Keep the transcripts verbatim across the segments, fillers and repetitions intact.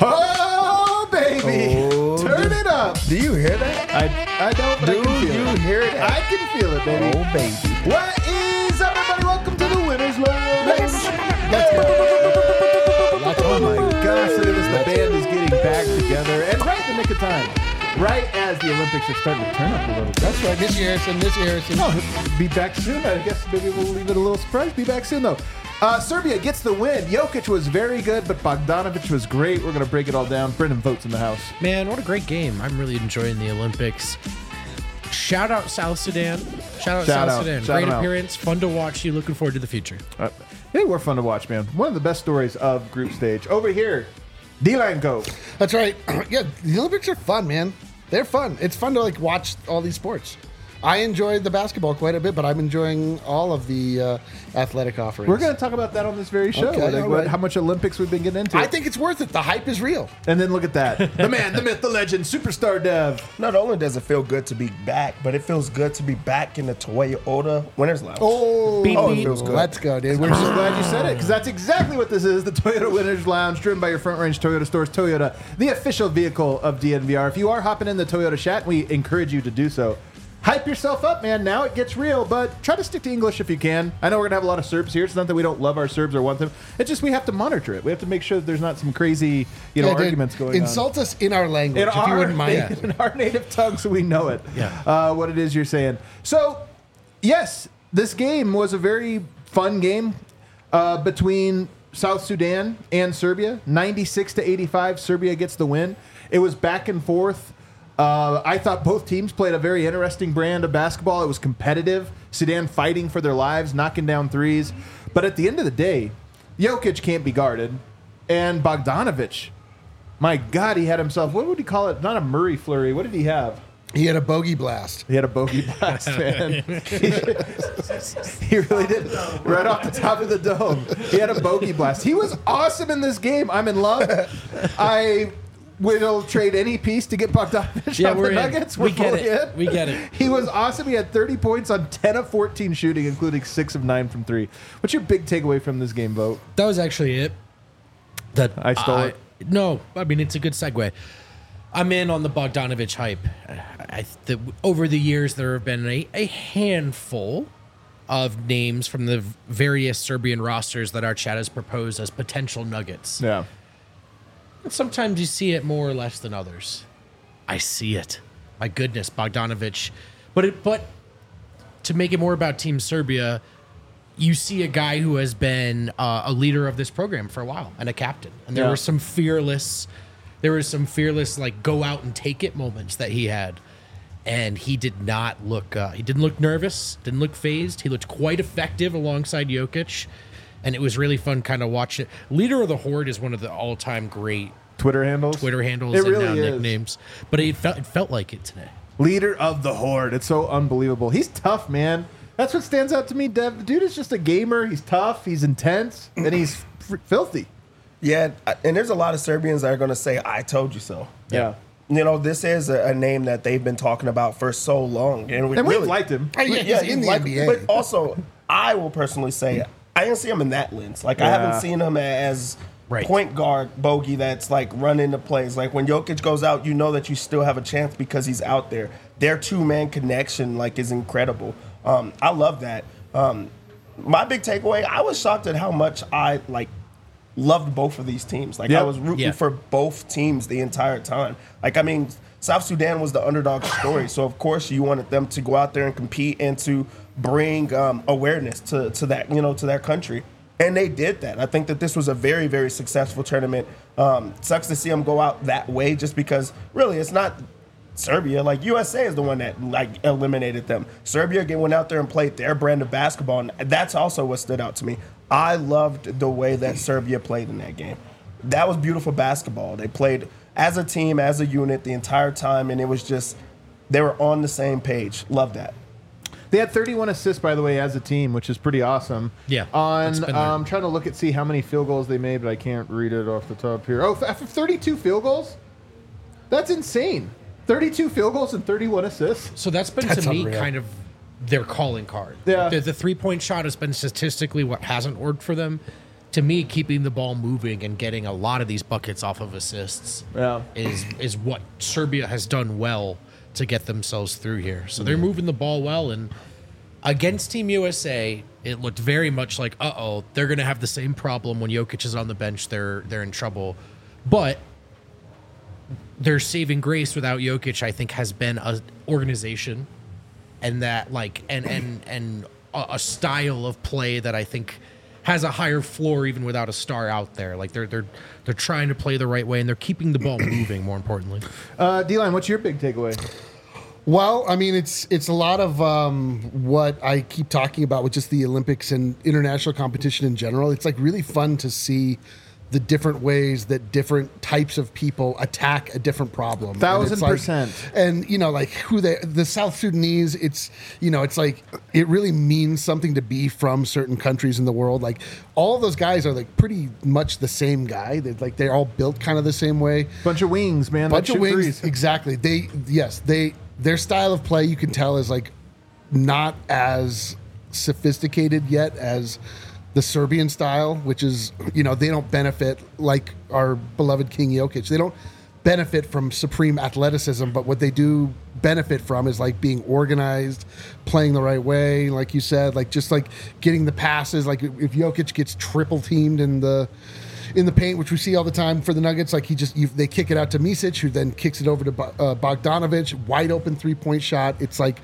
Oh, baby. Oh, Turn do, it up. Do you hear that? I, I don't, but Do I can feel you it. hear that? I can feel it, baby. Oh, baby. What is up, everybody? Welcome to the Winners Lounge. Let's go. Oh, my gosh. Look at this. The band is getting back together. And right in the nick of time. Right as the Olympics are starting to turn up a little bit. That's right. Miss Harrison, Miss Harrison. Oh, be back soon. I guess maybe we'll leave it a little surprise. Be back soon, though. Uh, Serbia gets the win. Jokic was very good, but Bogdanovic was great. We're going to break it all down. Brendan Votes in the house. Man, what a great game. I'm really enjoying the Olympics. Shout out South Sudan. Shout out Shout South out. Sudan. Shout Great them out. appearance. Fun to watch you. Looking forward to the future. Uh, they were fun to watch, man. One of the best stories of group stage. Over here, D-Line Go. That's right. Yeah, the Olympics are fun, man. They're fun. It's fun to like watch all these sports. I enjoyed the basketball quite a bit, but I'm enjoying all of the uh, athletic offerings. We're going to talk about that on this very show. Okay, like all what, right. how much Olympics we've been getting into. I think it's worth it. The hype is real. And then look at that. The man, the myth, the legend, superstar Dev. Not only does it feel good to be back, but it feels good to be back in the Toyota Winners Lounge. Oh, Beep, Oh, it beep. feels good. Let's go, dude. We're We're just glad you said it, because that's exactly what this is. The Toyota Winners Lounge, driven by your Front Range Toyota stores. Toyota, the official vehicle of D N V R. If you are hopping in the Toyota chat, we encourage you to do so. Hype yourself up, man. Now it gets real, but try to stick to English if you can. I know we're going to have a lot of Serbs here. It's not that we don't love our Serbs or want them. It's just we have to monitor it. We have to make sure that there's not some crazy, you know, Yeah, dude, arguments going insult us in our language, on. if you wouldn't mind. In our native tongue, so we know it. Yeah. Uh, what it is you're saying. So, yes, this game was a very fun game uh, between South Sudan and Serbia. ninety-six to eighty-five, Serbia gets the win. It was back and forth. Uh, I thought both teams played a very interesting brand of basketball. It was competitive. Sudan fighting for their lives, knocking down threes. But at the end of the day, Jokic can't be guarded. And Bogdanovic, my God, he had himself, what would he call it? Not a Murray flurry. What did he have? He had a bogey blast. He had a bogey blast, man. He really did. Right off the top of the dome. He had a bogey blast. He was awesome in this game. I'm in love. I will trade any piece to get Bogdanovic Yeah, off we're the in. Nuggets. We We're get fully it. in. We get it. He was awesome. He had thirty points on ten of fourteen shooting, including six of nine from three. What's your big takeaway from this game, Vote? That was actually it. That I stole it? No, I mean it's a good segue. I'm in on the Bogdanovic hype. I, the, over the years, there have been a, a handful of names from the various Serbian rosters that our chat has proposed as potential nuggets. Yeah. And sometimes you see it more or less than others. I see it. My goodness, Bogdanovic. But it, but to make it more about Team Serbia, you see a guy who has been uh, a leader of this program for a while and a captain. And there Yeah. were some fearless, there was some fearless like go out and take it moments that he had. And he did not look, uh, he didn't look nervous, didn't look phased. He looked quite effective alongside Jokic. And it was really fun kind of watching it. Leader of the Horde is one of the all-time great Twitter handles? Twitter handles It and really now is. nicknames. But it felt it felt like it today. Leader of the Horde. It's so unbelievable. He's tough, man. That's what stands out to me, Dev. The dude is just a gamer. He's tough. He's intense. And he's f- filthy. Yeah, and there's a lot of Serbians that are going to say, I told you so. Yeah. You know, this is a, a name that they've been talking about for so long. And, we And we've really, liked him. Oh, yeah, he's you in the like- N B A. But also, I will personally say, I didn't see him in that lens. Like, I Yeah. haven't seen him as Right. point guard bogey that's like running the plays. Like, when Jokic goes out, you know that you still have a chance because he's out there. Their two-man connection, like, is incredible. Um, I love that. Um, my big takeaway, I was shocked at how much I, like, loved both of these teams. Like, Yep. I was rooting Yeah. for both teams the entire time. Like, I mean, South Sudan was the underdog story, so of course you wanted them to go out there and compete and to bring um, awareness to, to that, you know, to their country. And they did that. I think that this was a very, very successful tournament. Um, sucks to see them go out that way just because, really, it's not Serbia. Like, U S A is the one that, like, eliminated them. Serbia again went out there and played their brand of basketball, and that's also what stood out to me. I loved the way that Serbia played in that game. That was beautiful basketball. They played as a team, as a unit the entire time, and it was just, they were on the same page. Love that. They had thirty-one assists, by the way, as a team, which is pretty awesome. Yeah, that's On, been there. um, trying to look at see how many field goals they made, but I can't read it off the top here. Oh, f- thirty-two field goals? That's insane. thirty-two field goals and thirty-one assists. So that's been That's to me unreal. kind of their calling card. Yeah. The, the three point shot has been statistically what hasn't worked for them. to me, keeping the ball moving and getting a lot of these buckets off of assists Yeah. is is what Serbia has done well to get themselves through here. So they're moving the ball well, and against Team U S A, it looked very much like, uh-oh, they're going to have the same problem when Jokic is on the bench. They're they're in trouble. But their saving grace without Jokic, I think, has been a organization and that like and and and a, a style of play that I think has a higher floor even without a star out there. Like they're they're they're trying to play the right way and they're keeping the ball moving. More importantly, Uh, D-Line, what's your big takeaway? Well, I mean, it's it's a lot of um, what I keep talking about with just the Olympics and international competition in general. It's like really fun to see the different ways that different types of people attack a different problem. Thousand And it's like- percent. And you know, like who they, the South Sudanese, it's you know, it's like it really means something to be from certain countries in the world. Like all of those guys are like pretty much the same guy. They're like they're all built kind of the same way. Bunch of wings, man. Bunch that of shoot wings, threes. exactly. They yes, they their style of play you can tell is like not as sophisticated yet as the Serbian style, which is, you know, they don't benefit like our beloved King Jokic. They don't benefit from supreme athleticism, but what they do benefit from is like being organized, playing the right way, like you said, like just like getting the passes. Like if Jokic gets triple teamed in the in the paint, which we see all the time for the Nuggets, like he just you, they kick it out to Misic, who then kicks it over to Bo- uh, Bogdanovic, wide open three point shot. It's like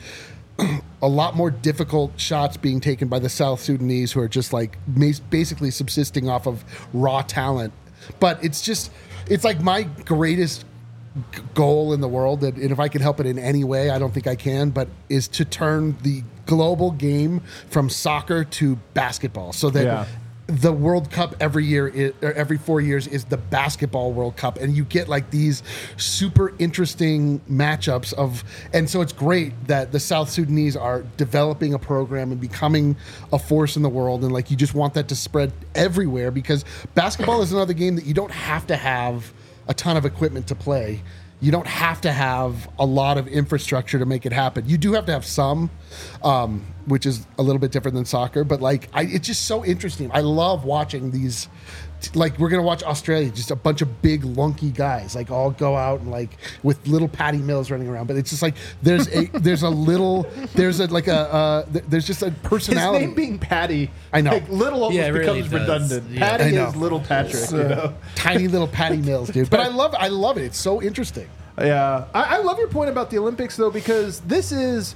a lot more difficult shots being taken by the South Sudanese, who are just like mas- basically subsisting off of raw talent. But it's just, it's like my greatest g- goal in the world, that, and if I can help it in any way, I don't think I can, but is to turn the global game from soccer to basketball, so that Yeah. the World Cup every year is, or every four years is the basketball World Cup, and you get like these super interesting matchups of, and so it's great that the South Sudanese are developing a program and becoming a force in the world, and like you just want that to spread everywhere, because basketball is another game that you don't have to have a ton of equipment to play. You don't have to have a lot of infrastructure to make it happen. You do have to have some, um, which is a little bit different than soccer. But like, I, it's just so interesting. I love watching these. Like, we're gonna watch Australia, just a bunch of big lunky guys, like all go out and like with little Patty Mills running around. But it's just like there's a there's a little there's a like a uh, th- there's just a His personality. name being Patty, I know. like, little almost Yeah, it really becomes does. redundant. Yeah. Patty I know. is little Patrick, you know. Tiny little Patty Mills, dude. But I love I love it. It's so interesting. Yeah, I, I love your point about the Olympics, though, because this is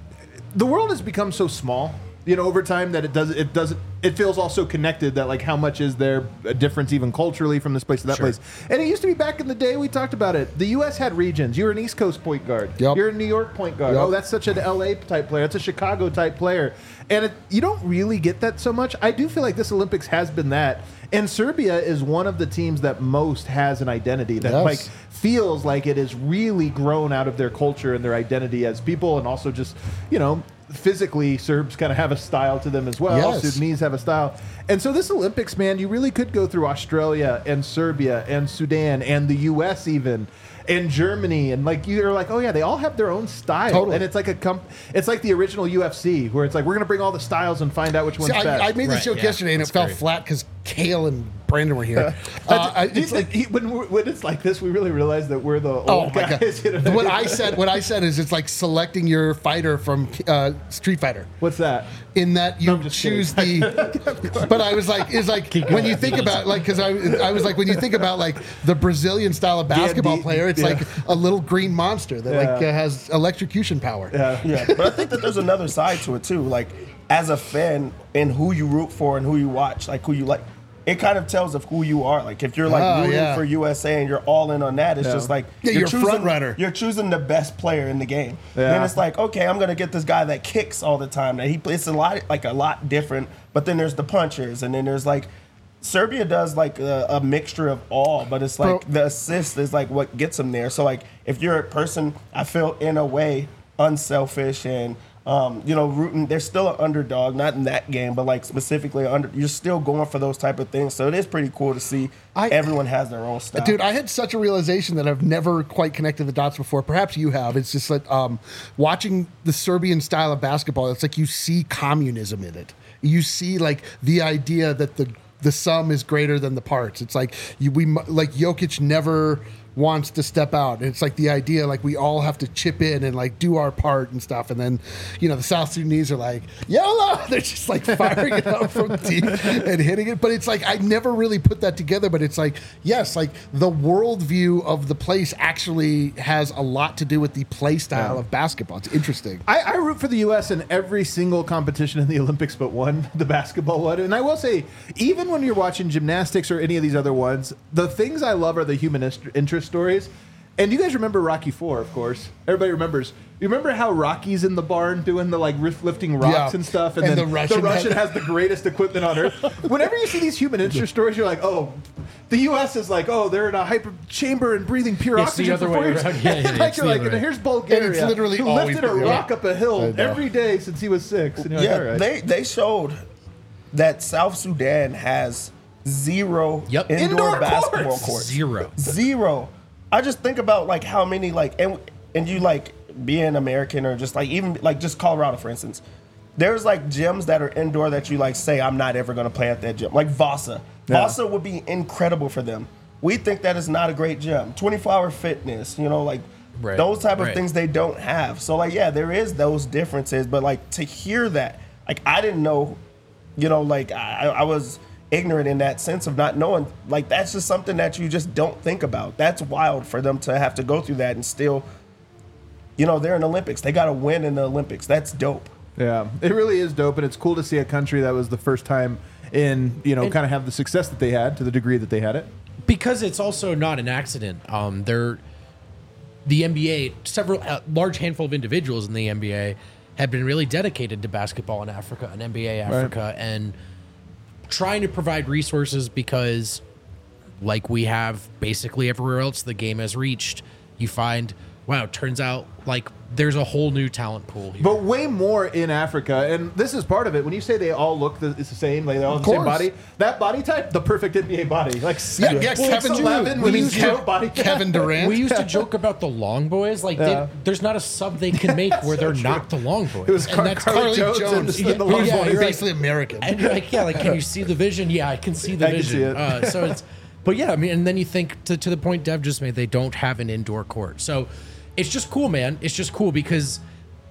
the world has become so small, you know, over time that it does it doesn't it feels also connected. That like how much is there a difference even culturally from this place to that Sure. place? And it used to be back in the day. We talked about it. The U S had regions. You're an East Coast point guard. Yep. You're a New York point guard. Yep. Oh, that's such an L A type player. That's a Chicago type player. And it, you don't really get that so much. I do feel like this Olympics has been that. And Serbia is one of the teams that most has an identity that Yes. like feels like it has really grown out of their culture and their identity as people, and also just, you know, physically Serbs kind of have a style to them as well. Yes. Sudanese have a style. And so this Olympics, man, you really could go through Australia and Serbia and Sudan and the U S even and Germany, and like you're like, oh yeah, they all have their own style. Totally. And it's like a comp- it's like the original U F C where it's like we're gonna bring all the styles and find out which one's See, best. I, I made this Right, joke yeah, yesterday and it that's fell great. flat because Kale and Brandon were here. uh, I, Do you it's think like, he- when, we're- when it's like this, we really realize that we're the old oh my guys. god! you know? What I said, what I said is, it's like selecting your fighter from uh, Street Fighter. What's that? In that you I'm just choose the, but I was like, is like when you think about like, because I, I was like, when you think about like the Brazilian style of basketball D- player, it's yeah. like a little green monster that like Yeah. uh, has electrocution power. Yeah. Yeah, but I think that there's another side to it too. Like, as a fan, and who you root for and who you watch, like who you like, it kind of tells of who you are. Like, if you're like Oh, rooting yeah. for U S A and you're all in on that, it's Yeah. just like Yeah, you're a choosing, front runner. You're choosing the best player in the game. Yeah. Then it's like, okay, I'm gonna get this guy that kicks all the time. That he plays a lot, like a lot different. But then there's the punchers, and then there's like. Serbia does like a, a mixture of all, but it's like Bro. the assist is like what gets them there. So like if you're a person, I feel in a way unselfish and um, you know rooting. They're still an underdog, not in that game, but like specifically under. You're still going for those type of things. So it is pretty cool to see I- everyone has their own style. Dude, I had such a realization that I've never quite connected the dots before. Perhaps you have. It's just like um, watching the Serbian style of basketball. It's like you see communism in it. You see like the idea that the the sum is greater than the parts. It's like you, we mu- like Jokic never wants to step out. And it's like the idea, like we all have to chip in and like do our part and stuff. And then, you know, the South Sudanese are like, YOLO! They're just like firing it up from deep and hitting it. But it's like, I never really put that together. But it's like, yes, like the worldview of the place actually has a lot to do with the play style Yeah. of basketball. It's interesting. I, I root for the U S in every single competition in the Olympics but one, the basketball one. And I will say, even when you're watching gymnastics or any of these other ones, the things I love are the human ist- interest stories. And you guys remember Rocky Four, of course. Everybody remembers. You remember how Rocky's in the barn doing the like riff lifting rocks Yeah. and stuff, and, And then the Russian Russian has- has the greatest equipment on earth. Whenever you see these human interest stories, you're like, oh, the U S is like, oh, they're in a hyper chamber and breathing pure It's the oxygen other for way four years. around. Yeah, yeah, like it's you're the like, other and way. here's Bulgaria, And it's literally who always lifted a the- rock up a hill I know. every day since he was six. And you're like, Yeah, all right. they they showed that South Sudan has zero Yep. indoor, Indoor basketball courts. courts. Zero. Zero. I just think about like how many like and and you like being American or just like even like just Colorado for instance. There's like gyms that are indoor that you like say I'm not ever going to play at that gym. Like Vasa. Yeah. Vasa would be incredible for them. We think that is not a great gym. twenty-four hour fitness, you know, like Right, those type of right. things they don't have. So like yeah, there is those differences, but like to hear that, like I didn't know, you know, like I, I was ignorant in that sense of not knowing. Like that's just something that you just don't think about. That's wild for them to have to go through that and still, you know, they're in the Olympics. They got to win in the Olympics. That's dope. Yeah, it really is dope, and it's cool to see a country that was the first time in, you know, And- kind of have the success that they had to the degree that they had it. Because it's also not an accident. Um, they're the N B A. Several a large handful of individuals in the N B A have been really dedicated to basketball in Africa and N B A Africa, and trying to provide resources because, like we have basically everywhere else the game has reached, you find wow, it turns out like there's a whole new talent pool here. But way more in Africa, and this is part of it. When you say they all look the, it's the same, like they all have the same course. body, that body type, the perfect N B A body, like Yeah, yeah, six Kevin eleven, Durant. we use Kev- body. Kevin Durant. We used to joke about the long boys. Like, Yeah. they, there's not a sub they can make where they're not the long boys. It was and Car- that's Carly Carly Jones, Jones. and Yeah, the long yeah, boy. you're You're right. basically American. And you're like, yeah, like, can you see the vision? Yeah, I can see the I can vision. see it. Uh, so it's, but yeah, I mean, and then you think to, to the point Dev just made, they don't have an indoor court. So it's just cool, man. It's just cool because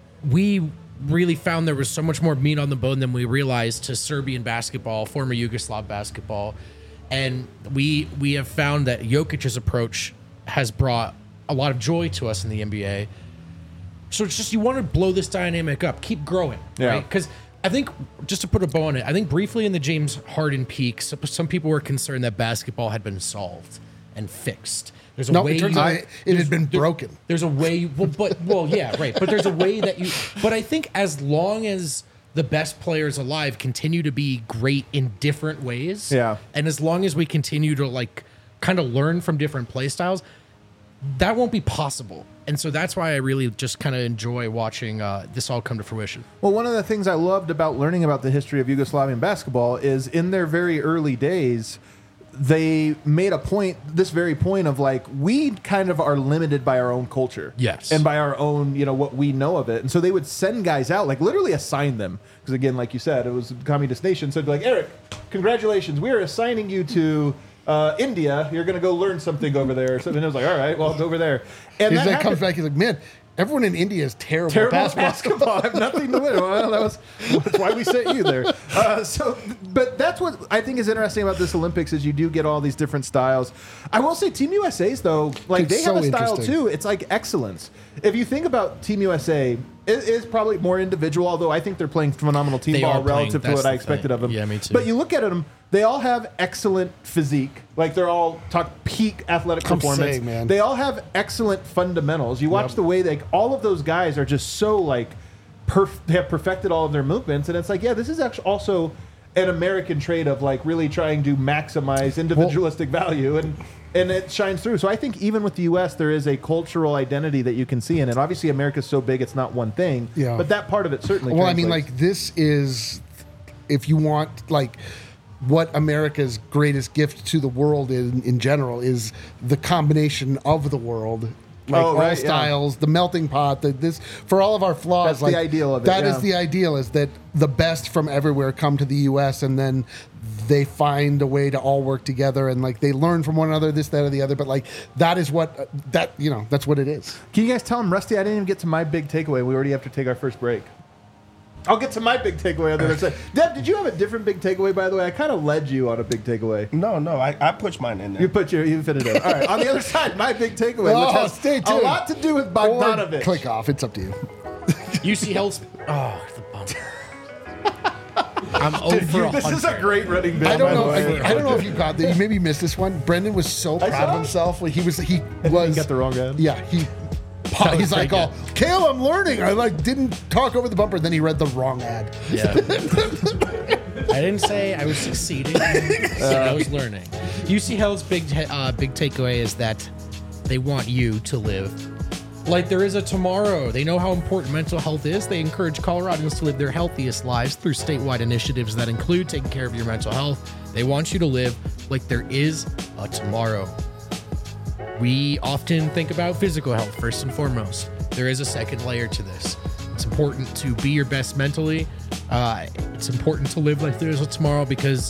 we really found there was so much more meat on the bone than we realized to Serbian basketball, former Yugoslav basketball. And we we have found that Jokic's approach has brought a lot of joy to us in the N B A. So it's just you want to blow this dynamic up, keep growing, Yeah. right? Because I think just to put a bow on it, I think briefly in the James Harden peak, some, some people were concerned that basketball had been solved and fixed. There's a No, way it turns you- out it there's- had been there- broken. There's a way, well, but well, yeah, right. But there's a way that you. But I think as long as the best players alive continue to be great in different ways, Yeah. and as long as we continue to like kind of learn from different play styles, that won't be possible. And so that's why I really just kind of enjoy watching uh, this all come to fruition. Well, one of the things I loved about learning about the history of Yugoslavian basketball is in their very early days, they made a point, this very point of like, we kind of are limited by our own culture. Yes. And by our own, you know, what we know of it. And so they would send guys out, like literally assign them. Because again, like you said, it was a communist nation. So it'd be like, Eric, congratulations. We are assigning you to uh, India. You're going to go learn something over there. So then it was like, all right, well, it's over there. And He's that like, comes happened- back, he's like, man, everyone in India is terrible, Terrible at basketball. basketball. I have nothing to win. Well, that was that's why we sent you there. Uh, so, but that's what I think is interesting about this Olympics is you do get all these different styles. I will say, Team U S A's though, like It's they have so a style interesting. too. It's like excellence. If you think about Team U S A, it is probably more individual. Although I think they're playing phenomenal team They ball are playing- relative to that's what I the expected thing. of them. Yeah, me too. But you look at them. They all have excellent physique. Like they're all talk peak athletic I'm performance. saying, man. They all have excellent fundamentals. You watch Yep. the way they all of those guys are just so like perf- they have perfected all of their movements, and it's like, yeah, this is actually also an American trait of like really trying to maximize individualistic value, and and it shines through. So I think even with the U S, there is a cultural identity that you can see in it. Obviously, America's so big, it's not one thing. Yeah. But that part of it certainly. Well, I mean, translates. like this is, if you want, like, what America's greatest gift to the world in, in general is the combination of the world like Oh, all right, yeah. styles, the melting pot, the, this for all of our flaws. That's the like, ideal of it, That is yeah. the ideal is that the best from everywhere come to the U S and then they find a way to all work together and like they learn from one another, this, that, or the other. But like that is what uh, that you know that's what it is. Can you guys tell him, Rusty, I didn't even get to my big takeaway. We already have to take our first break. I'll get to my big takeaway on the other side. Deb, did you have a different big takeaway, by the way? I kind of led you on a big takeaway. No, no, I, I pushed mine in there. You put your, you fit it in. All right, on the other side, my big takeaway, Oh, which has stay a tuned. lot to do with Or Bogdanovich. click off. It's up to you. U C Health. Oh, the bump. I'm over a This is hundred. a great running bit. I don't by the know. way. I, I don't know if you got that. You maybe missed this one. Brendan was so I proud of saw. himself. Like, he was. He He was. got the wrong ad. Yeah. He. was He's like, pretty "Oh, Kale, I'm learning." I like didn't talk over the bumper. Then he read the wrong ad. Yeah. I didn't say I was succeeding. I said I was learning. U C Health's big uh, big takeaway is that they want you to live like there is a tomorrow. They know how important mental health is. They encourage Coloradans to live their healthiest lives through statewide initiatives that include taking care of your mental health. They want you to live like there is a tomorrow. We often think about physical health first and foremost. There is a second layer to this. It's important to be your best mentally. Uh, it's important to live like there's a tomorrow because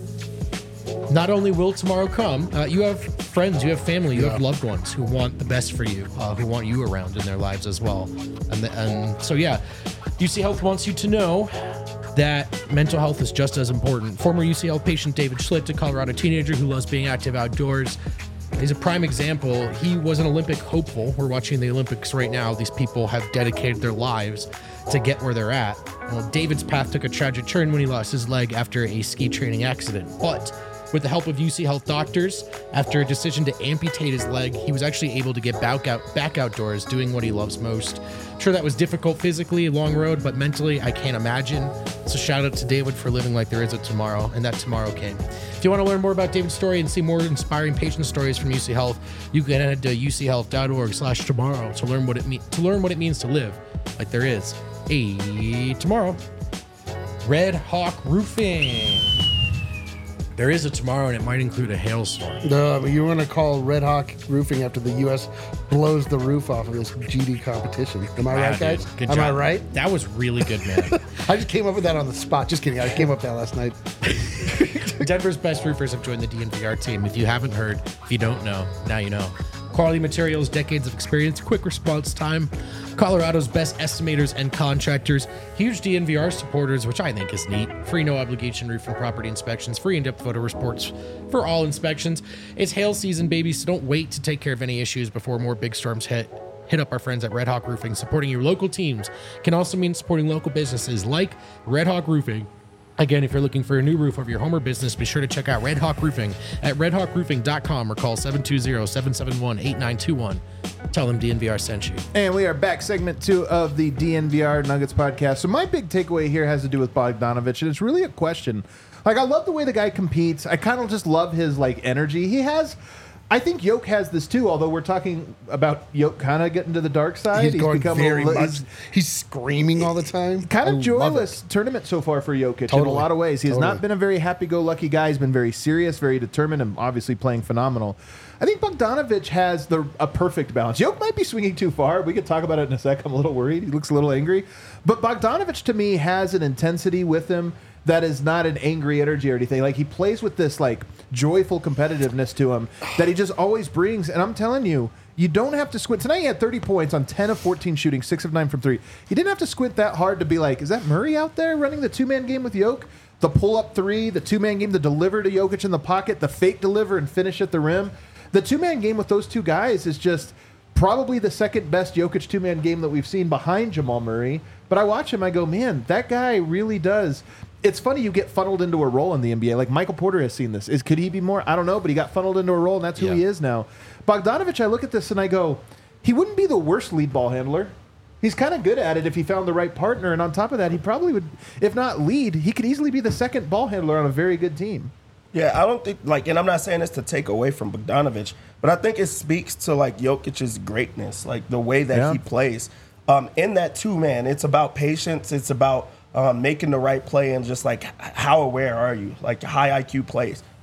not only will tomorrow come, uh, you have friends, you have family, you have loved ones who want the best for you, uh, who want you around in their lives as well. And, the, and so, yeah, U C Health wants you to know that mental health is just as important. Former U C Health patient David Schlitt, a Colorado teenager who loves being active outdoors, is a prime example. He was an Olympic hopeful. We're watching the Olympics right now. These people have dedicated their lives to get where they're at. Well, David's path took a tragic turn when he lost his leg after a ski training accident. But with the help of U C Health doctors, after a decision to amputate his leg, he was actually able to get back out back outdoors doing what he loves most. Sure, that was difficult physically, a long road, but mentally, I can't imagine. So shout out to David for living like there is a tomorrow, and that tomorrow came. If you want to learn more about David's story and see more inspiring patient stories from U C Health, you can head to u c health dot org slash tomorrow to learn what it mean to learn what it means to live like there is a tomorrow. Red Hawk Roofing. There is a tomorrow, and it might include a hailstorm. No, but you want to call Red Hawk Roofing after the U S blows the roof off of this G D competition. Am I Wow, right, dude. guys? Good Am job. I right? That was really good, man. I just came up with that on the spot. Just kidding. I came up with that last night. Denver's best roofers have joined the D N V R team. If you haven't heard, if you don't know, now you know. Quality materials, decades of experience, quick response time, Colorado's best estimators and contractors, huge D N V R supporters, which I think is neat. Free no obligation roof and property inspections, free in-depth photo reports for all inspections. It's hail season, baby, so don't wait to take care of any issues before more big storms hit. Hit up our friends at Red Hawk Roofing. Supporting your local teams can also mean supporting local businesses like Red Hawk Roofing. Again, if you're looking for a new roof of your home or business, be sure to check out Red Hawk Roofing at red hawk roofing dot com or call seven two zero, seven seven one, eight nine two one. Tell them D N V R sent you. And we are back, segment two of the D N V R Nuggets podcast. So my big takeaway here has to do with Bogdanovich, and it's really a question. Like, I love the way the guy competes. I kind of just love his, like, energy. He has... I think Yoke has this too, although we're talking about Yoke kind of getting to the dark side. He's, going become very a, li- much. he's He's screaming all the time. kind I of love joyless it. tournament so far for Jokic in a Totally. lot of ways. He has Totally. not been a very happy-go-lucky guy. He's been very serious, very determined, and obviously playing phenomenal. I think Bogdanovich has the a perfect balance. Yoke might be swinging too far. We could talk about it in a sec. I'm a little worried. He looks a little angry. But Bogdanovich, to me, has an intensity with him that is not an angry energy or anything. Like, he plays with this, like, joyful competitiveness to him that he just always brings. And I'm telling you, you don't have to squint. Tonight he had thirty points on ten of fourteen shooting, six of nine from three. He didn't have to squint that hard to be like, is that Murray out there running the two-man game with Yoke? The pull-up three, the two-man game, the deliver to Jokic in the pocket, the fake deliver and finish at the rim. The two-man game with those two guys is just probably the second best Jokic two-man game that we've seen behind Jamal Murray. But I watch him, I go, man, that guy really does. It's funny you get funneled into a role in the N B A. Like, Michael Porter has seen this. Is Could he be more? I don't know, but he got funneled into a role, and that's who Yeah. he is now. Bogdanovich, I look at this and I go, he wouldn't be the worst lead ball handler. He's kind of good at it if he found the right partner. And on top of that, he probably would, if not lead, he could easily be the second ball handler on a very good team. Yeah, I don't think, like, and I'm not saying this to take away from Bogdanovich, but I think it speaks to, like, Jokic's greatness, like, the way that Yeah. he plays. Um, in that two-man, it's about patience. It's about um, making the right play and just, like, h- how aware are you? Like, high I Q plays.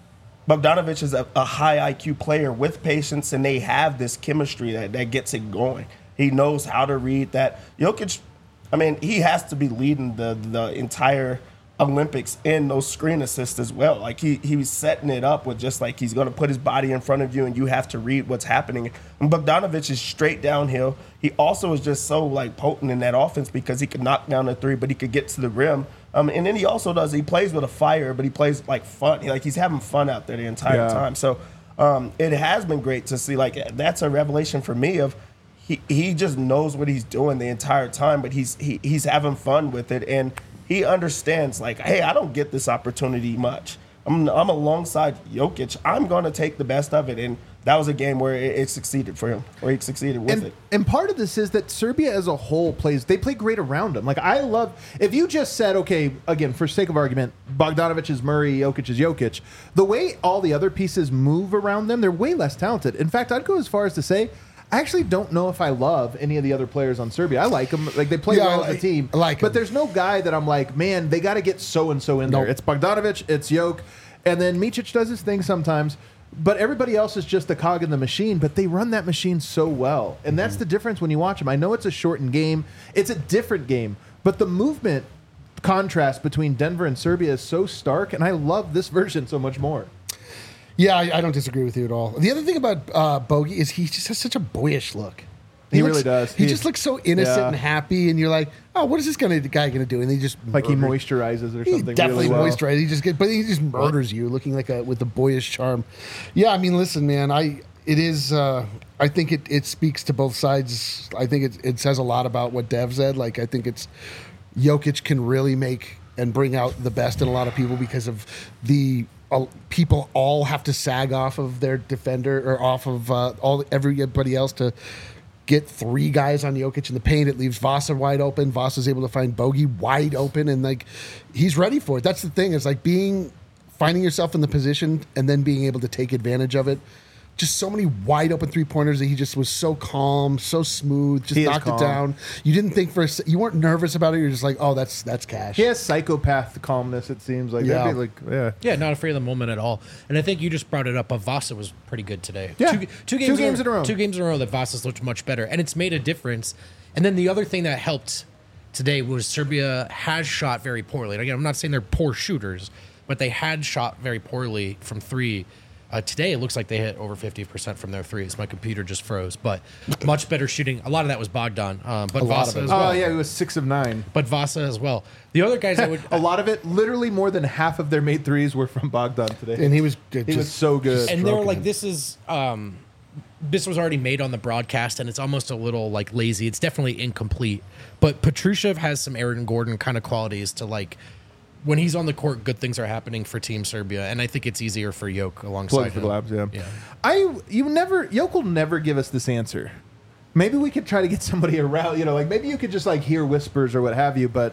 Bogdanovic is a, a high I Q player with patience, and they have this chemistry that, that gets it going. He knows how to read that. Jokic, I mean, he has to be leading the the entire Olympics in those screen assists as well. Like he he was setting it up with just like he's going to put his body in front of you and you have to read what's happening. And Bogdanovic is straight downhill. He also is just so like potent in that offense because he could knock down a three, but he could get to the rim. Um, and then he also does, he plays with a fire, but he plays like fun. He, like he's having fun out there the entire Yeah. time. So um, it has been great to see. Like that's a revelation for me of he, he just knows what he's doing the entire time, but he's he, he's having fun with it. And he understands, like, hey, I don't get this opportunity much. I'm, I'm alongside Jokic. I'm going to take the best of it. And that was a game where it, it succeeded for him, or he succeeded with And, it. and part of this is that Serbia as a whole plays, they play great around him. Like, I love, if you just said, okay, again, for sake of argument, Bogdanovic is Murray, Jokic is Jokic, the way all the other pieces move around them, they're way less talented. In fact, I'd go as far as to say, I actually don't know if I love any of the other players on Serbia. I like them. Like, they play Yeah, well I as a like- team. I like But 'em. there's no guy that I'm like, man, they got to get so-and-so in there. Nope. It's Bogdanovic, it's Jokic, and then Micic does his thing sometimes. But everybody else is just the cog in the machine, but they run that machine so well. And that's the difference when you watch them. I know it's a shortened game. It's a different game. But the movement contrast between Denver and Serbia is so stark, and I love this version so much more. Yeah, I, I don't disagree with you at all. The other thing about uh, Bogey is he just has such a boyish look. He looks- really does. He, He- just looks so innocent Yeah. and happy, and you're like, oh, what is this gonna, guy going to do? And he just Like he murders- moisturizes or He something. definitely really well. moisturizes. He just get, but he just murders you, looking like a with a boyish charm. Yeah, I mean, listen, man, I it is. Uh, I think it, it speaks to both sides. I think it it says a lot about what Dev said. Like, I think it's Jokic can really make and bring out the best in a lot of people because of the. Uh, people all have to sag off of their defender or off of uh, all everybody else to get three guys on Jokic in the paint. It leaves Vasa wide open. Vasa's able to find Bogey wide open, and like he's ready for it. That's the thing. Is like being finding yourself in the position and then being able to take advantage of it. Just so many wide open three pointers that he just was so calm, so smooth, just He is knocked calm. it down. You didn't think for a se- you weren't nervous about it. You're just like, oh, that's that's cash. He has psychopath calmness, it seems like. Yeah. That'd be like, yeah. Yeah, not afraid of the moment at all. And I think you just brought it up. But Vasa was pretty good today. Yeah. two, two Two games, games in a row. Two games in a row that Vasa's looked much better, and it's made a difference. And then the other thing that helped today was Serbia has shot very poorly. And again, I'm not saying they're poor shooters, but they had shot very poorly from three. Uh, today, it looks like they hit over fifty percent from their threes. My computer just froze, but much better shooting. A lot of that was Bogdan, um, but A lot of Vasa it. as Oh, well. yeah, he was six of nine. But Vasa as well. The other guys that would A lot of it, literally more than half of their made threes were from Bogdan today. And he was good. He was so good. and they were stroking like, it. "This is um, this was already made on the broadcast, and it's almost a little like lazy. It's definitely incomplete." But Petrushev has some Aaron Gordon kind of qualities to like. When he's on the court, good things are happening for Team Serbia, and I think it's easier for Jokic alongside Plug for him. Glabs, yeah. Yeah. I you never Yoke will never give us this answer. Maybe we could try to get somebody around, you know, like maybe you could just like hear whispers or what have you, but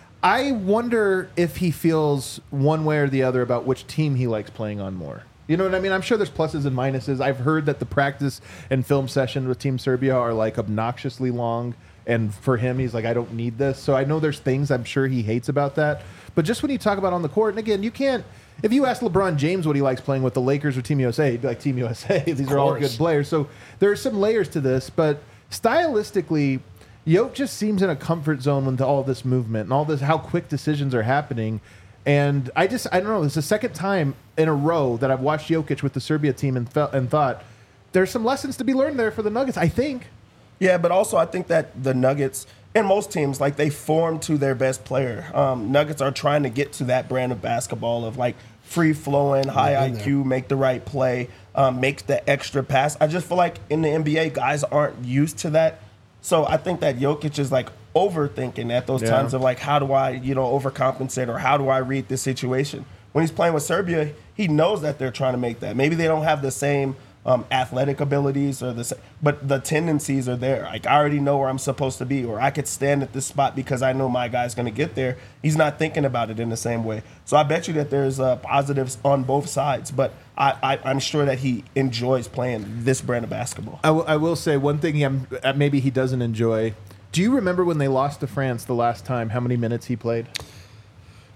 I wonder if he feels one way or the other about which team he likes playing on more. You know what I mean? I'm sure there's pluses and minuses. I've heard that the practice and film session with Team Serbia are like obnoxiously long. And for him, he's like, I don't need this. So I know there's things I'm sure he hates about that. But just when you talk about on the court, and again, you can't, if you ask LeBron James what he likes playing with the Lakers or Team U S A, he'd be like, Team U S A. These are all course. good players. So there are some layers to this. But stylistically, Yoke just seems in a comfort zone with all this movement and all this, how quick decisions are happening. And I just, I don't know, it's the second time in a row that I've watched Jokic with the Serbia team and, felt, and thought, there's some lessons to be learned there for the Nuggets, I think. Yeah, but also I think that the Nuggets and most teams, like they form to their best player. Um, Nuggets are trying to get to that brand of basketball of like free flowing, high I Q, make the right play, um, make the extra pass. I just feel like in the N B A, guys aren't used to that. So I think that Jokic is like overthinking at those Yeah. times of like, how do I, you know, overcompensate or how do I read this situation? When he's playing with Serbia, he knows that they're trying to make that. Maybe they don't have the same um, athletic abilities or the, sa- but the tendencies are there. Like I already know where I'm supposed to be, or I could stand at this spot because I know my guy's going to get there. He's not thinking about it in the same way. So I bet you that there's uh, positives on both sides, but I, I, I'm sure that he enjoys playing this brand of basketball. I, w- I will say one thing I'm, uh, maybe he doesn't enjoy. Do you remember when they lost to France the last time, how many minutes he played?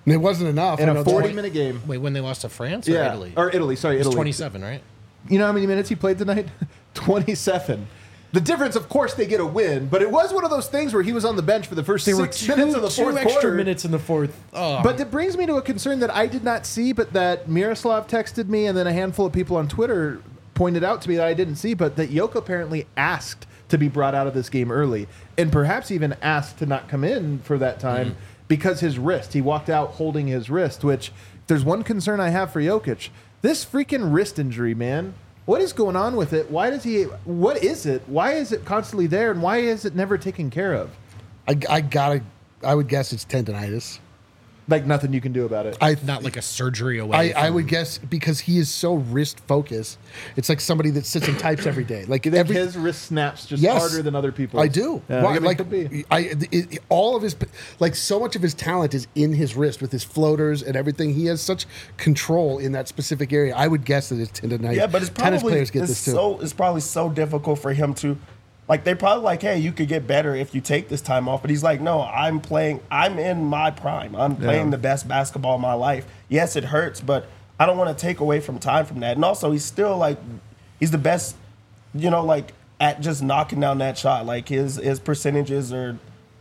And it wasn't enough. in I know a that. forty-minute game. Wait, when they lost to France or Yeah, Italy? or Italy. Sorry, It was Italy. twenty-seven, right? You know how many minutes he played tonight? twenty-seven. The difference, of course, they get a win, but it was one of those things where he was on the bench for the first There were six two, minutes of the two fourth extra quarter. minutes in the fourth. Oh. But it brings me to a concern that I did not see, but that Miroslav texted me, and then a handful of people on Twitter pointed out to me that I didn't see, but that Yoke apparently asked to be brought out of this game early, and perhaps even asked to not come in for that time Mm-hmm. because his wrist. He walked out holding his wrist, which if there's one concern I have for Jokic. This freaking wrist injury, man. What is going on with it? Why does he? What is it? Why is it constantly there, and why is it never taken care of? I, I gotta. I would guess it's tendonitis. Like nothing you can do about it. I not like a surgery away. I, I from- would guess because he is so wrist focused. It's like somebody that sits and types every day. Like You think every his wrist snaps just Yes. harder than other people's? I do. Yeah, Why- I mean, like could be. I, it, it- all of his, like so much of his talent is in his wrist with his floaters and everything. He has such control in that specific area. I would guess that it's tendonitis. Yeah, but it's tennis probably players get it's this too. so it's probably so difficult for him to, like they probably like, hey, you could get better if you take this time off. But he's like, no, I'm playing. I'm in my prime. I'm playing Yeah. the best basketball of my life. Yes, it hurts, but I don't want to take away from time from that. And also, he's still like, he's the best, you know, like at just knocking down that shot. Like his his percentages are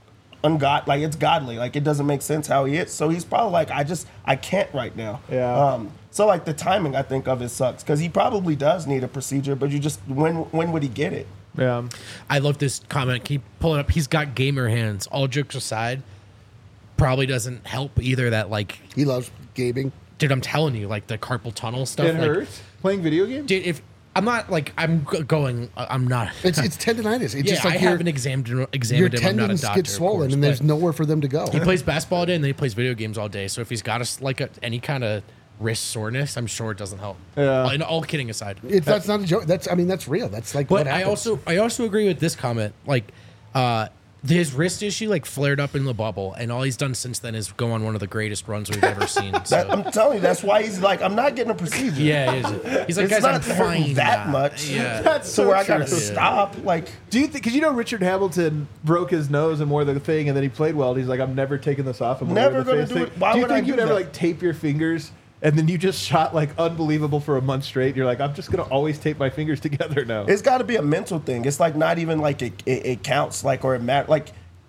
ungod like it's godly. Like it doesn't make sense how he is. So he's probably like, I just I can't right now. Yeah. Um, so like the timing I think of it sucks because he probably does need a procedure, but you just when when would he get it? Yeah. I love this comment. Can you pull it up? He's got gamer hands. All jokes aside, probably doesn't help either. That like, He loves gaming. dude, I'm telling you, like the carpal tunnel stuff. It like, hurts playing video games. Dude, if I'm not like I'm g- going, uh, I'm not. It's it's tendonitis. It's yeah, just like I your, haven't examined your examined him. I'm not a tendons doctor, get of swollen course, and there's but nowhere for them to go. He plays basketball all day and then he plays video games all day. So if he's got a, like a, any kind of wrist soreness, I'm sure it doesn't help. Yeah. And all kidding aside, It's that's not a joke. That's I mean that's real. That's like but what I happens. also I also agree with this comment. Like, uh, his wrist issue like flared up in the bubble, and all he's done since then is go on one of the greatest runs we've ever seen. That, So. I'm telling you, that's why he's like, I'm not getting a procedure. Yeah, he is. He's like, It's guys, not I'm hurting fine. that now." much. Yeah. That's So so where I true. gotta stop, like Do you think? Because you know Richard Hamilton broke his nose and wore the thing, and then he played well. And he's like, I'm never taking this off. I'm gonna Never wear the gonna face do thing." it. Why do you would I think you'd do ever that? like tape your fingers, and then you just shot like unbelievable for a month straight? You're like, I'm just gonna always tape my fingers together now. it's got to be a mental thing. It's like not even like it, it, it counts, like or it matters. Like,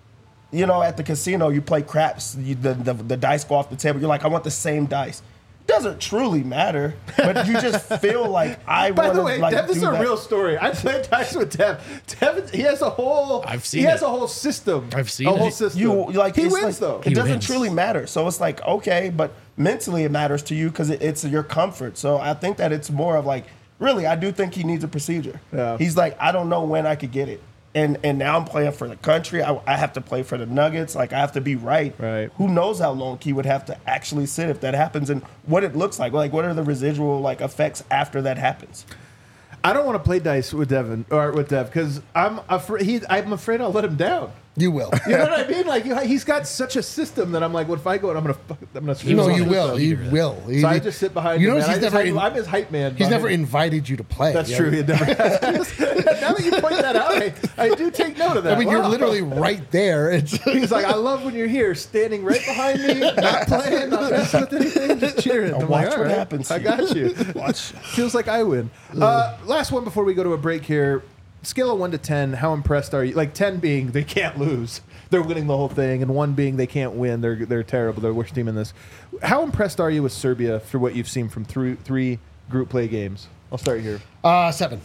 you know, at the casino, you play craps. You, the, the the dice go off the table. You're like, I want the same dice. It doesn't truly matter, but you just feel like I By want the to way, like Dev, this do is a that. real story. I played dice with Dev. Dev, he has a whole. I've seen He has it. a whole system. I've seen a it. whole system. You like he it's wins like- though. It He doesn't wins. truly matter. So it's like okay, but mentally it matters to you because it, it's your comfort. So I think that it's more of like really, I do think he needs a procedure. Yeah. He's like, I don't know when I could get it. And and now I'm playing for the country. I, I have to play for the Nuggets. Like I have to be right. Right. Who knows how long he would have to actually sit if that happens, and what it looks like. Like what are the residual like effects after that happens? I don't want to play dice with Devin or with Dev because I'm afraid. He, I'm afraid I'll let him down. you will. You know what I mean? Like you, he's got such a system that I'm like, what if I go and I'm gonna, fuck- I'm gonna. screw No, this you up. will. You leader. will. So He- I just sit behind You him. notice man. I he's just never. hype- in- I'm his hype man. He's behind never him. invited you to play. That's Yeah. true. He never has. Now that you point that out, I, I do take note of that. I mean, you're Wow. literally right there. It's He's like, I love when you're here, standing right behind me, not playing, not messing with anything, just cheering. I'm watch like, what all right, happens I to got you. Watch. Feels like I win. Uh, last one before we go to a break here. Scale of one to ten. How impressed are you? Like ten being they can't lose, they're winning the whole thing, and one being they can't win, they're they're terrible, they're the worst team in this. How impressed are you with Serbia for what you've seen from three three group play games? I'll start here. uh, seven.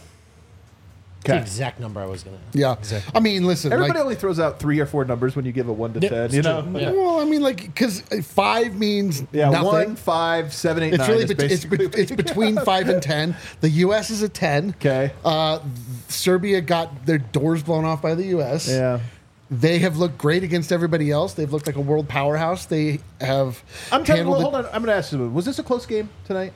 The Okay. exact number I was gonna. Yeah. Exactly. I mean, listen. Everybody like, only throws out three or four numbers when you give a one to Yeah, ten. it's You true. know. Yeah. Well, I mean, like, because five means Yeah, nothing. one, five, seven, eight, It's nine really is bet- it's, basically be- it's between five and ten. The U S is a ten. Okay. Uh, Serbia got their doors blown off by the U S. Yeah. They have looked great against everybody else. They've looked like a world powerhouse. They have. I'm telling you, handled well, it- hold on. I'm going to ask you, was this a close game tonight?